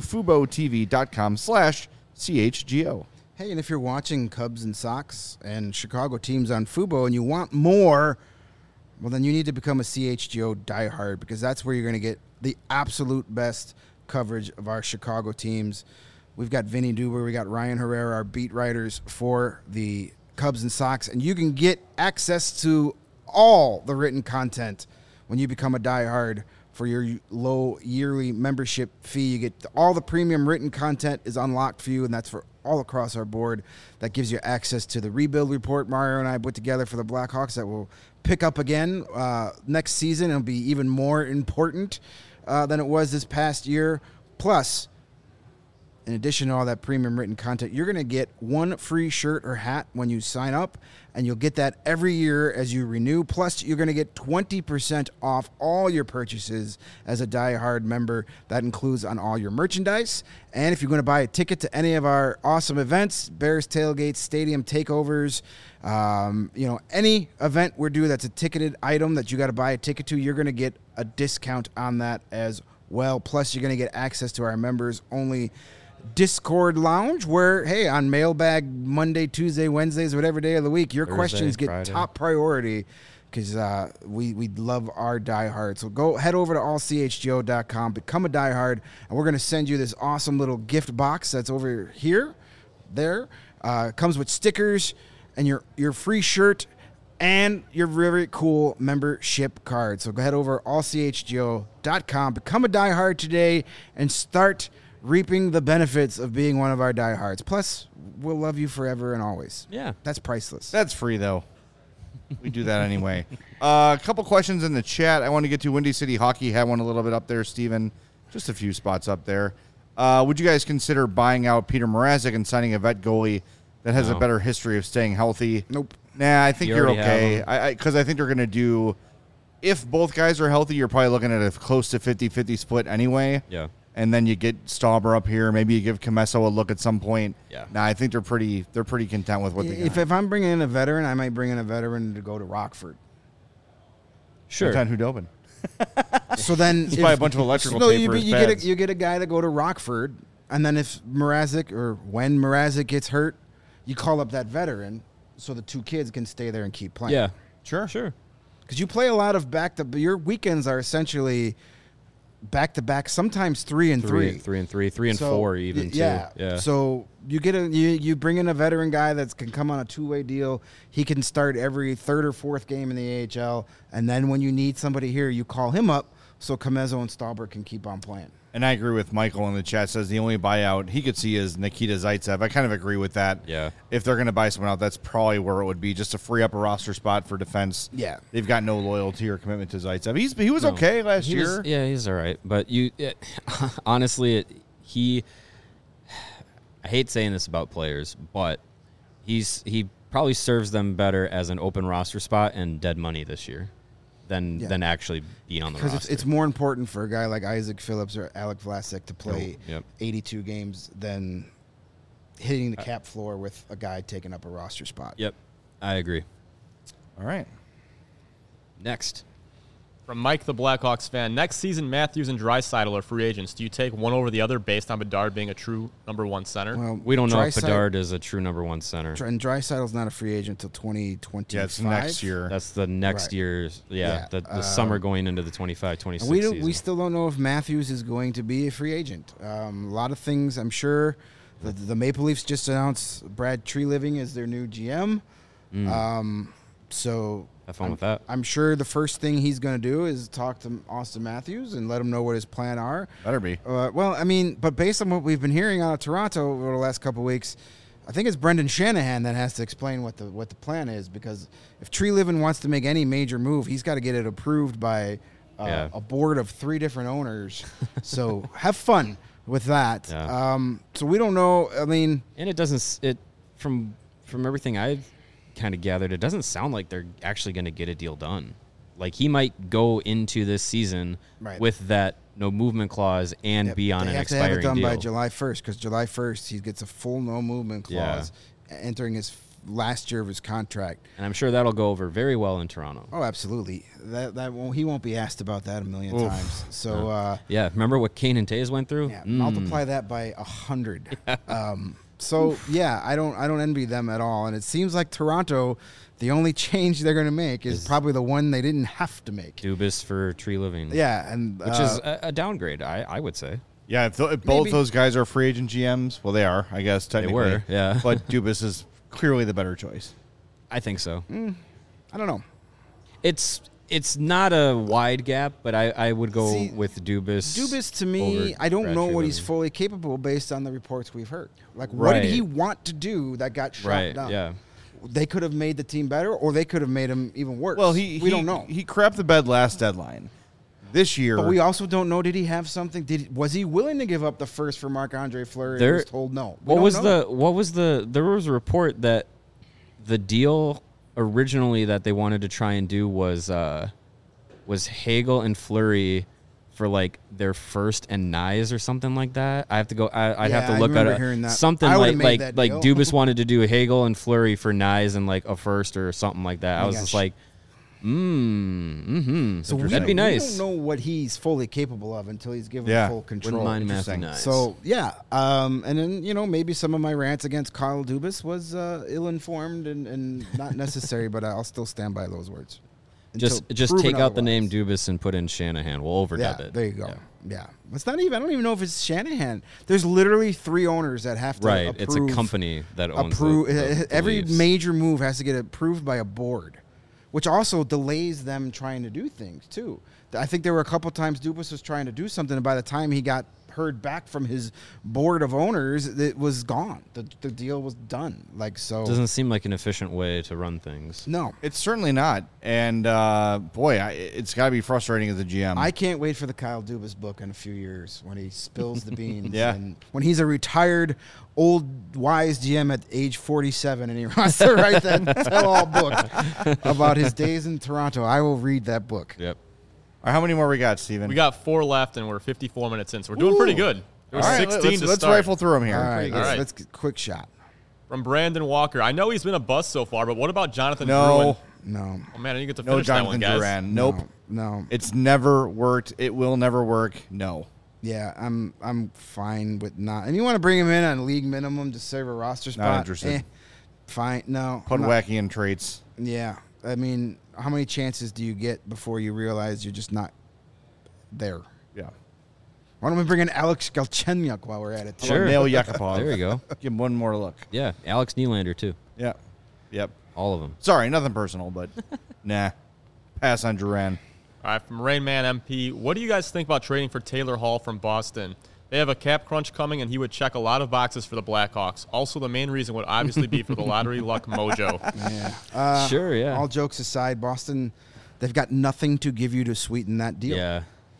FuboTV.com/CHGO. Hey, and if you're watching Cubs and Sox and Chicago teams on Fubo and you want more, well, then you need to become a CHGO diehard because that's where you're going to get the absolute best coverage of our Chicago teams. We've got Vinny Duber, we got Ryan Herrera, our beat writers for the Cubs and Sox, and you can get access to all the written content when you become a diehard. For your low yearly membership fee, you get all the premium written content is unlocked for you, and that's for all across our board. That gives you access to the rebuild report Mario and I put together for the Blackhawks that will pick up again next season. It'll be even more important than it was this past year. Plus, in addition to all that premium written content, you're going to get one free shirt or hat when you sign up, and you'll get that every year as you renew. Plus, you're going to get 20% off all your purchases as a diehard member. That includes on all your merchandise. And if you're going to buy a ticket to any of our awesome events, Bears tailgates, stadium takeovers, any event we're doing that's a ticketed item that you got to buy a ticket to, you're going to get a discount on that as well. Plus, you're going to get access to our members only Discord lounge where, hey, on mailbag Monday, Tuesday, Wednesdays, whatever day of the week, your Thursday, questions get Friday. top priority because we love our diehard. So go head over to allchgo.com, become a diehard, and we're going to send you this awesome little gift box that's over here. There. Comes with stickers and your free shirt and your very cool membership card. So go head over to allchgo.com, become a diehard today, and start reaping the benefits of being one of our diehards. Plus, we'll love you forever and always. Yeah. That's priceless. That's free, though. We do that anyway. A couple questions in the chat I want to get to. Windy City Hockey had one a little bit up there, Steven. Just a few spots up there. Would you guys consider buying out Peter Mrazek and signing a vet goalie that has a No. better history of staying healthy? Nope. Nah, I think You you're already okay. have Because I think they're going to do, if both guys are healthy, you're probably looking at a close to 50-50 split anyway. Yeah. And then you get Stauber up here. Maybe you give Comesso a look at some point. Yeah. Nah, I think they're pretty content with what they got. If I'm bringing in a veteran, I might bring in a veteran to go to Rockford. Sure. Anton Hudobin. So then, Just buy a bunch of electrical no, tape you, for his you get pads. you get a guy to go to Rockford, and then if Mrazek or when Mrazek gets hurt, you call up that veteran so the two kids can stay there and keep playing. Yeah. Sure. Sure. Because you play a lot of your weekends are essentially back to back, sometimes 3 and 3. 3 and 3, 3 and So, 4 even yeah. too. Yeah. So you get you bring in a veteran guy that can come on a 2-way deal. He can start every third or fourth game in the AHL, and then when you need somebody here, you call him up so Comesso and Stauber can keep on playing. And I agree with Michael in the chat. Says the only buyout he could see is Nikita Zaitsev. I kind of agree with that. Yeah. If they're going to buy someone out, that's probably where it would be, just to free up a roster spot for defense. Yeah. They've got no loyalty or commitment to Zaitsev. He was No. okay last He year. was- yeah, he's all right. But honestly, I hate saying this about players, but he probably serves them better as an open roster spot and dead money this year. than actually being on the Because roster. it's more important for a guy like Isaac Phillips or Alec Vlasic to play Yep. 82 games than hitting the cap floor with a guy taking up a roster spot. Yep, I agree. All right. Next. From Mike, the Blackhawks fan, next season Matthews and Draisaitl are free agents. Do you take one over the other based on Bedard being a true number one center? Well, We don't know if Draisaitl- Bedard is a true number one center. And Draisaitl's not a free agent until 2025. Yeah, it's next year. That's the next Right. year's, Yeah, the summer going into the 25-26 And we season. still don't know if Matthews is going to be a free agent. A lot of things, I'm sure. The Maple Leafs just announced Brad Treliving as their new GM. So Have fun with that. I'm sure the first thing he's going to do is talk to Austin Matthews and let him know what his plan are. Better be. Well, I mean, but based on what we've been hearing out of Toronto over the last couple of weeks, I think it's Brendan Shanahan that has to explain what the plan is, because if Treliving wants to make any major move, he's got to get it approved by a board of 3 different owners. So have fun with that. Yeah. So we don't know. I mean, And it doesn't. It from everything I've kind of gathered, it doesn't sound like they're actually going to get a deal done. Like he might go into this season Right. with that no movement clause and be on they an have to have it expiring done deal. by July 1st, because July 1st he gets a full no movement Yeah. clause entering his last year of his contract. And I'm sure that'll go over very well in Toronto. Oh, absolutely. He won't be asked about that a million times. So Yeah, remember what Kane and Tays went through? yeah, multiply that by 100. So yeah, I don't envy them at all. And it seems like Toronto, the only change they're going to make is probably the one they didn't have to make. Dubas for Treliving. Yeah, and Which is a downgrade, I would say. Yeah, if both Maybe. those guys are free agent GMs, well, they are, I guess, technically. were, yeah. But Dubas is clearly the better choice. I think so. I don't know. It's not a wide gap, but I would go See, with Dubas. Dubas, to me, over I don't Brad know what he's Treliving. fully capable based on the reports we've heard. Like, what did Right. he want to do that got shot Right, down? yeah. They could have made the team better, or they could have made him even worse. Well, we don't know. He crapped the bed last deadline. This year, But we also don't know. Did he have something? Was he willing to give up the first for Marc-Andre Fleury? There- And was told no. There was a report that the deal originally that they wanted to try and do was Hagel and Fleury for like their first and Nyes or something like that. I have to go. I'd Yeah, have to I look at remember hearing that. something I would've like made like that like deal. Dubas wanted to do Hagel and Fleury for Nyes and like a first or something like that. I Oh, was gosh. just like, So that'd be nice. We don't know what he's fully capable of until he's given Yeah. full control. Wouldn't mind Matthew Interesting. Nyes. So yeah, and then maybe some of my rants against Kyle Dubas was ill-informed and not necessary, but I'll still stand by those words. just Until take proven out the name otherwise. Dubas and put in Shanahan. We'll overdub Yeah, it. there you go. Yeah. Yeah, it's not even. I don't even know if it's Shanahan. There's literally 3 owners that have to Right, approve. it's a company that owns the every Leafs. major move has to get approved by a board, which also delays them trying to do things too. I think there were a couple times Dubas was trying to do something, and by the time he got heard back from his board of owners, it was gone. The deal was done. Like so. Doesn't seem like an efficient way to run things. No. it's certainly not. And boy, it's got to be frustrating as a GM. I can't wait for the Kyle Dubas book in a few years when he spills the beans. Yeah. And when he's a retired, old, wise GM at age 47 and he wants to write that tell-all book about his days in Toronto, I will read that book. Yep. All right, how many more we got, Steven? We got 4 left, and we're 54 minutes in, so we're doing pretty good. There All was right, 16 to let's start. rifle through them here. All right, All right. let's get quick shot. From Brandon Walker. I know he's been a bust so far, but what about Jonathan No, Drouin? No. Oh, man, I didn't get to no finish that Jonathan one, guys. Duran. Nope. No. It's never worked. It will never work. No. Yeah, I'm fine with not. And you want to bring him in on league minimum to serve a roster spot? interested. Fine. No. I'm not- Pudwackian traits. Yeah. I mean, how many chances do you get before you realize you're just not there? Yeah. Why don't we bring in Alex Galchenyuk while we're at it? too? Sure. Nail Yakupov. There you go. Give him one more look. Yeah, Alex Nylander too. Yeah. Yep. All of them. Sorry, nothing personal, but nah. Pass on Duran. All right, from Rainman MP. What do you guys think about trading for Taylor Hall from Boston? They have a cap crunch coming, and he would check a lot of boxes for the Blackhawks. Also, the main reason would obviously be for the lottery luck mojo. Yeah. Sure, yeah. All jokes aside, Boston, they've got nothing to give you to sweeten that deal. Yeah.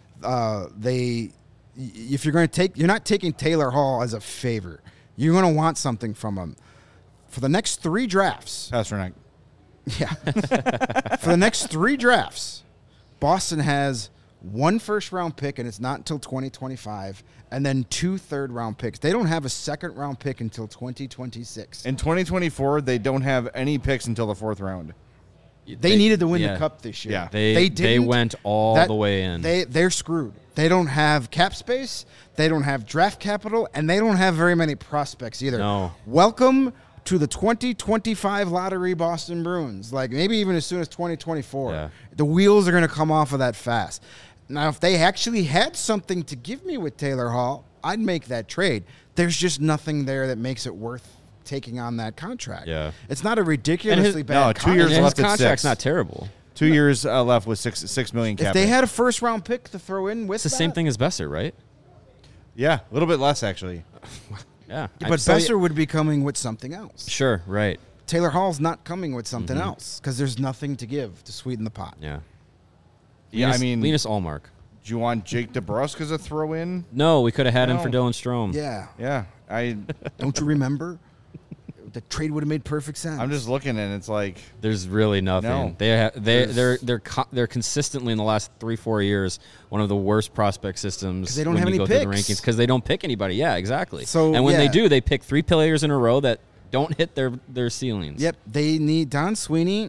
If you're going to you're not taking Taylor Hall as a favor. You're going to want something from him. For the next 3 drafts, Pasternak. yeah. For the next 3 drafts, Boston has 1 first-round pick, and it's not until 2025, and then 2 third-round picks. They don't have a second-round pick until 2026. In 2024, they don't have any picks until the 4th round. They needed to win the Cup this year. Yeah. They didn't. went all the way in. They're screwed. They don't have cap space. They don't have draft capital, and they don't have very many prospects either. No. Welcome to the 2025 lottery, Boston Bruins. Like maybe even as soon as 2024. Yeah. The wheels are going to come off of that fast. Now, if they actually had something to give me with Taylor Hall, I'd make that trade. There's just nothing there that makes it worth taking on that contract. Yeah. It's not a ridiculously bad no, 2 years And left his at contract's 6. not terrible. 2 years left with $6 million cap. If they hit. had a first-round pick to throw in with It's the same thing as Besser, right? Yeah, a little bit less actually. Yeah. But Besser would be coming with something else. Sure, right. Taylor Hall's not coming with something else because there's nothing to give to sweeten the pot. Yeah. Yeah, I mean, Linus Allmark. do you want Jake DeBrusk as a throw-in? No, we could have had him No. for Dylan Strome. Yeah. Yeah, Don't you remember? The trade would have made perfect sense. I'm just looking and it's like There's really nothing. No. They're consistently in the last 3-4 years one of the worst prospect systems 'Cause they don't when have you any go through the picks. rankings because they don't pick anybody. Yeah, exactly. So, and when they yeah. do, they pick 3 players in a row that don't hit their ceilings. Yep, they need Don Sweeney.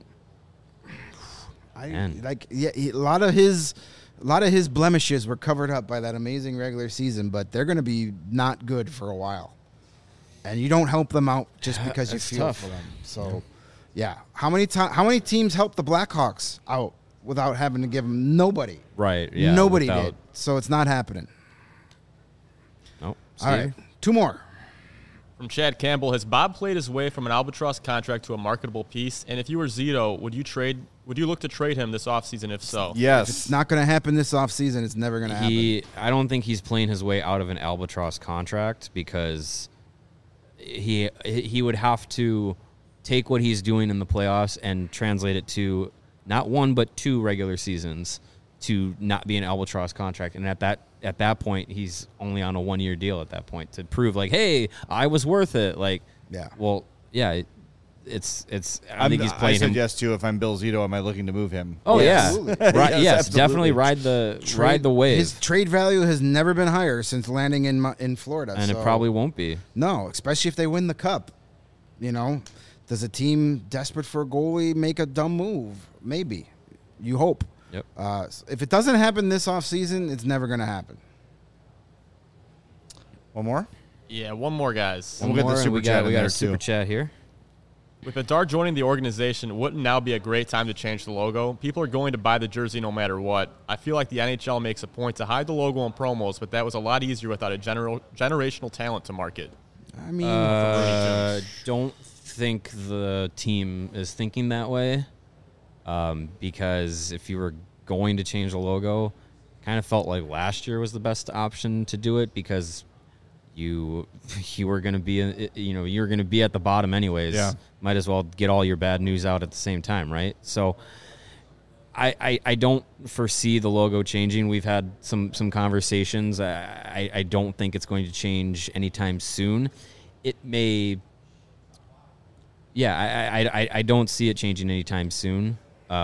Man. A lot of his blemishes were covered up by that amazing regular season, but they're going to be not good for a while. And you don't help them out just because you It's feel tough. for them. So, yeah, how many teams helped the Blackhawks out without having to give them nobody? Right. Yeah. Nobody without- did. So it's not happening. Nope. All right, 2 more. From Chad Campbell, has Bob played his way from an albatross contract to a marketable piece? And if you were Zito, would you look to trade him this offseason if so? yes. It's not going to happen this offseason. It's never going to happen. I don't think he's playing his way out of an albatross contract because he would have to take what he's doing in the playoffs and translate it to not 1 but 2 regular seasons to not be an albatross contract. And at that point, he's only on a 1-year deal at that point to prove like, hey, I was worth it. Like, Yeah. Well, yeah, it's. I think he's I playing said him. yes too. If I'm Bill Zito, am I looking to move him? Oh Absolutely. yeah, right. Yes, Yes, absolutely. definitely ride the wave, His trade value has never been higher since landing in Florida. and so it probably won't be. no, especially if they win the cup. You know, does a team desperate for a goalie make a dumb move? Maybe. You hope. Yep. If it doesn't happen this offseason, it's never going to happen. One more. Yeah, one more, guys. We'll get the More, and super we chat got in there, our super too. chat here. With Bedard joining the organization, wouldn't now be a great time to change the logo? People are going to buy the jersey no matter what. I feel like the NHL makes a point to hide the logo on promos, but that was a lot easier without a generational talent to market. I mean, Don't think the team is thinking that way, because if you were going to change the logo, kind of felt like last year was the best option to do it because you were going to be you're going to be at the bottom anyways. Yeah. Might as well get all your bad news out at the same time, right? So I don't foresee the logo changing. We've had some conversations. I don't think it's going to change anytime soon. It may. Yeah, I don't see it changing anytime soon.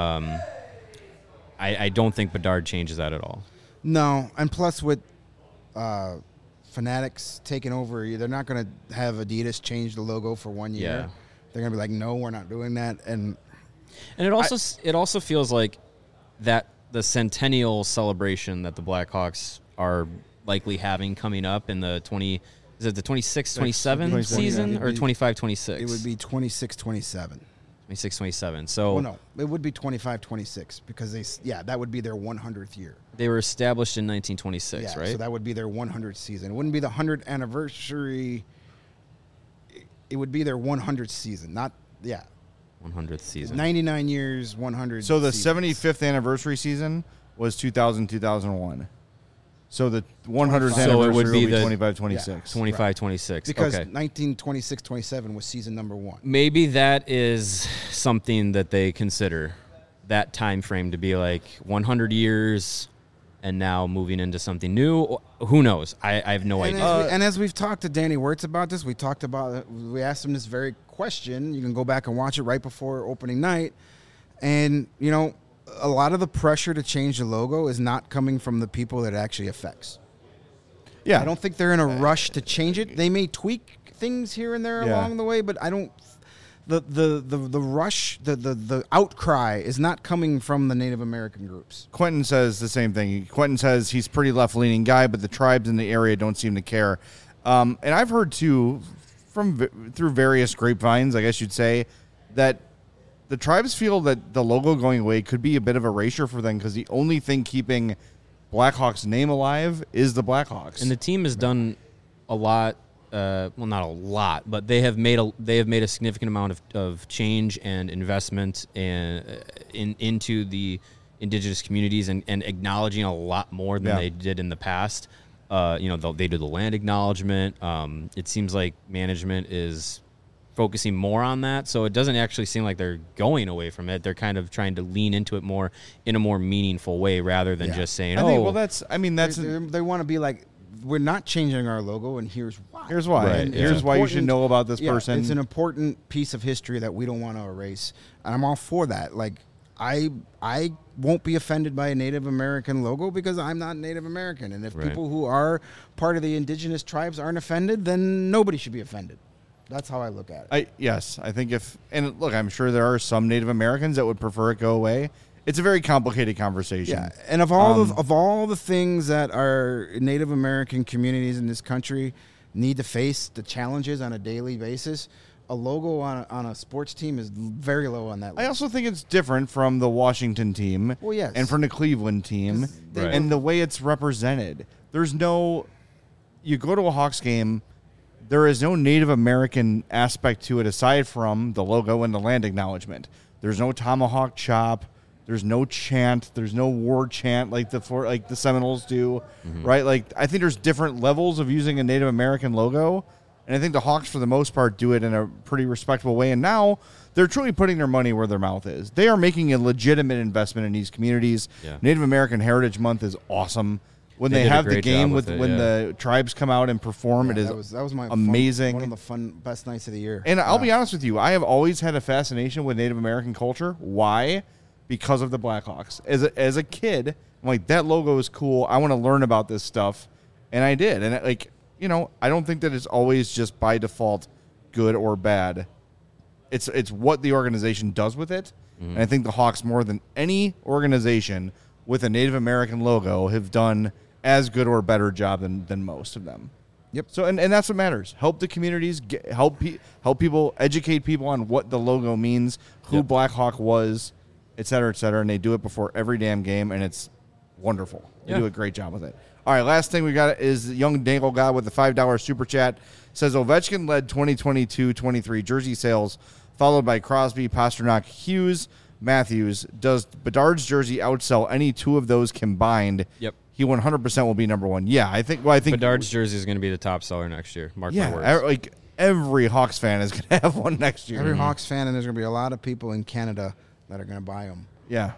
I don't think Bedard changes that at all. no. And plus with Fanatics taking over, they're not going to have Adidas change the logo for 1 year. Yeah. They're going to be like, no, we're not doing that. And And it also feels like that the centennial celebration that the Blackhawks are likely having coming up in the 26-27 season or 25-26? it would be 26-27. 26-27. So Well, no, it would be 25-26 because that would be their 100th year. they were established in 1926, Yeah, right? so that would be their 100th season. It wouldn't be the 100th anniversary. It would be their 100th season, not 100th season. 99 years, 100. So the seasons. 75th anniversary season was 2000-2001. So the 100th So it anniversary would be the 25-26. 25-26. Because okay. 1926-27 was season number 1. Maybe that is something that they consider, that time frame to be like 100 years and now moving into something new. Who knows? I have no And idea. as we've talked to Danny Wirtz about this, we asked him this very question. You can go back and watch it right before opening night. And, a lot of the pressure to change the logo is not coming from the people that it actually affects. Yeah. I don't think they're in a rush to change it. They may tweak things here and there Yeah. along the way, but I don't. The rush, the outcry is not coming from the Native American groups. Quentin says the same thing. Quentin says he's a pretty left-leaning guy, but the tribes in the area don't seem to care. And I've heard, too, through various grapevines, I guess you'd say, that the tribes feel that the logo going away could be a bit of erasure for them because the only thing keeping Blackhawks' name alive is the Blackhawks. And the team has done a lot. Well, not a lot, but they have made a significant amount of change and investment into the indigenous communities and acknowledging a lot more than they did in the past. They do the land acknowledgement. It seems like management is focusing more on that, so it doesn't actually seem like they're going away from it. They're kind of trying to lean into it more in a more meaningful way rather than just saying, they want to be like, we're not changing our logo, and here's why. Here's why. Right, And yeah. here's why you should know about this person. It's an important piece of history that we don't want to erase, and I'm all for that. Like, I won't be offended by a Native American logo because I'm not Native American, and if people who are part of the indigenous tribes aren't offended, then nobody should be offended. That's how I look at it. I think look, I'm sure there are some Native Americans that would prefer it go away. It's a very complicated conversation. Yeah, and of all the things that our Native American communities in this country need to face, the challenges on a daily basis, a logo on a sports team is very low on that list. I also think it's different from the Washington team and from the Cleveland team and the way it's represented. There's no – you go to a Hawks game, there is no Native American aspect to it aside from the logo and the land acknowledgement. There's no tomahawk chop. There's no chant. There's no war chant like the Seminoles do, right? Like, I think there's different levels of using a Native American logo, and I think the Hawks, for the most part, do it in a pretty respectable way. And now they're truly putting their money where their mouth is. They are making a legitimate investment in these communities. Yeah. Native American Heritage Month is awesome. When they have the game when the tribes come out and perform, it is that was my amazing. One of the best nights of the year. And I'll be honest with you, I have always had a fascination with Native American culture. Why? Because of the Blackhawks. As a kid, I'm like, that logo is cool. I want to learn about this stuff. And I did. And I don't think that it's always just by default good or bad. It's what the organization does with it. And I think the Hawks, more than any organization with a Native American logo, have done as good or better job than most of them. Yep. So and that's what matters. Help the communities, help people, educate people on what the logo means, who Blackhawk was, et cetera, and they do it before every damn game, and it's wonderful. They do a great job with it. All right, last thing we got is young Dangle guy with the $5 super chat. Says Ovechkin led 2022-23 jersey sales, followed by Crosby, Pasternak, Hughes, Matthews. Does Bedard's jersey outsell any two of those combined? Yep. He 100% will be number one. Yeah, I think Bedard's jersey is going to be the top seller next year. Mark my words. Like every Hawks fan is going to have one next year. Every Hawks fan, and there's going to be a lot of people in Canada that are going to buy them. Yeah.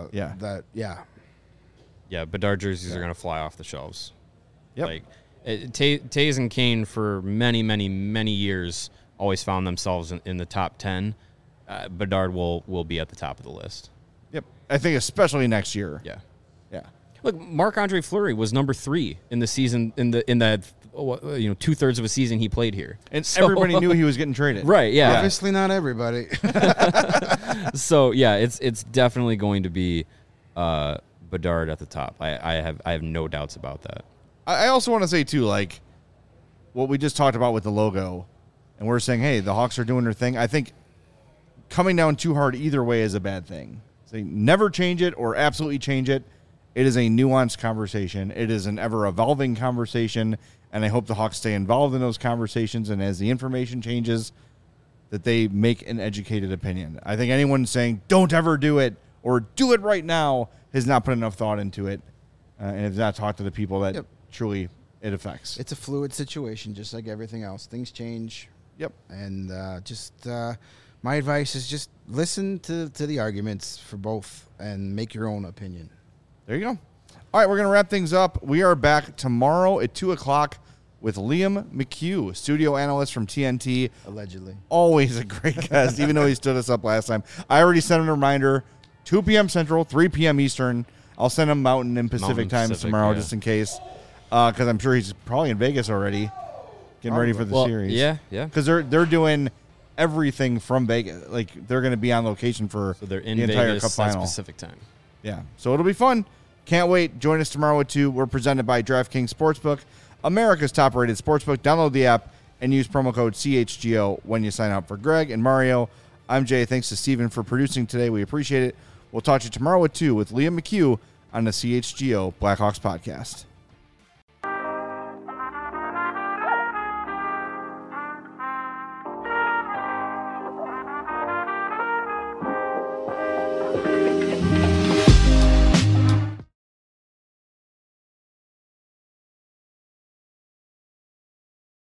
Yeah, Bedard jerseys are going to fly off the shelves. Yep. Like, Tays and Kane for many, many, many years always found themselves in the top 10. Bedard will be at the top of the list. Yep. I think especially next year. Yeah. Yeah. Look, Marc-Andre Fleury was number 3 in the season in that 2/3 of a season he played here, and everybody knew he was getting traded. Right? Yeah. Obviously, not everybody. So yeah, it's definitely going to be Bedard at the top. I have no doubts about that. I also want to say too, like what we just talked about with the logo, and we're saying, hey, the Hawks are doing their thing. I think coming down too hard either way is a bad thing. So never change it or absolutely change it. It is a nuanced conversation. It is an ever-evolving conversation, and I hope the Hawks stay involved in those conversations, and as the information changes, that they make an educated opinion. I think anyone saying, don't ever do it, or do it right now, has not put enough thought into it, and has not talked to the people that truly it affects. It's a fluid situation, just like everything else. Things change. Yep. And my advice is just listen to the arguments for both and make your own opinion. There you go. All right, we're going to wrap things up. We are back tomorrow at 2 o'clock with Liam McHugh, studio analyst from TNT. Allegedly. Always a great guest, even though he stood us up last time. I already sent him a reminder. 2 p.m. Central, 3 p.m. Eastern. I'll send him Mountain and Pacific Mountain times Pacific, tomorrow yeah. just in case, because I'm sure he's probably in Vegas already, getting ready for the Well, series. yeah. Because they're doing everything from Vegas. Like, they're going to be on location for So they're in the entire Vegas Cup at final. Pacific time. Yeah, so it'll be fun. Can't wait. Join us tomorrow at 2. We're presented by DraftKings Sportsbook, America's top-rated sportsbook. Download the app and use promo code CHGO when you sign up. For Greg and Mario, I'm Jay. Thanks to Steven for producing today. We appreciate it. We'll talk to you tomorrow at 2 with Liam McHugh on the CHGO Blackhawks podcast.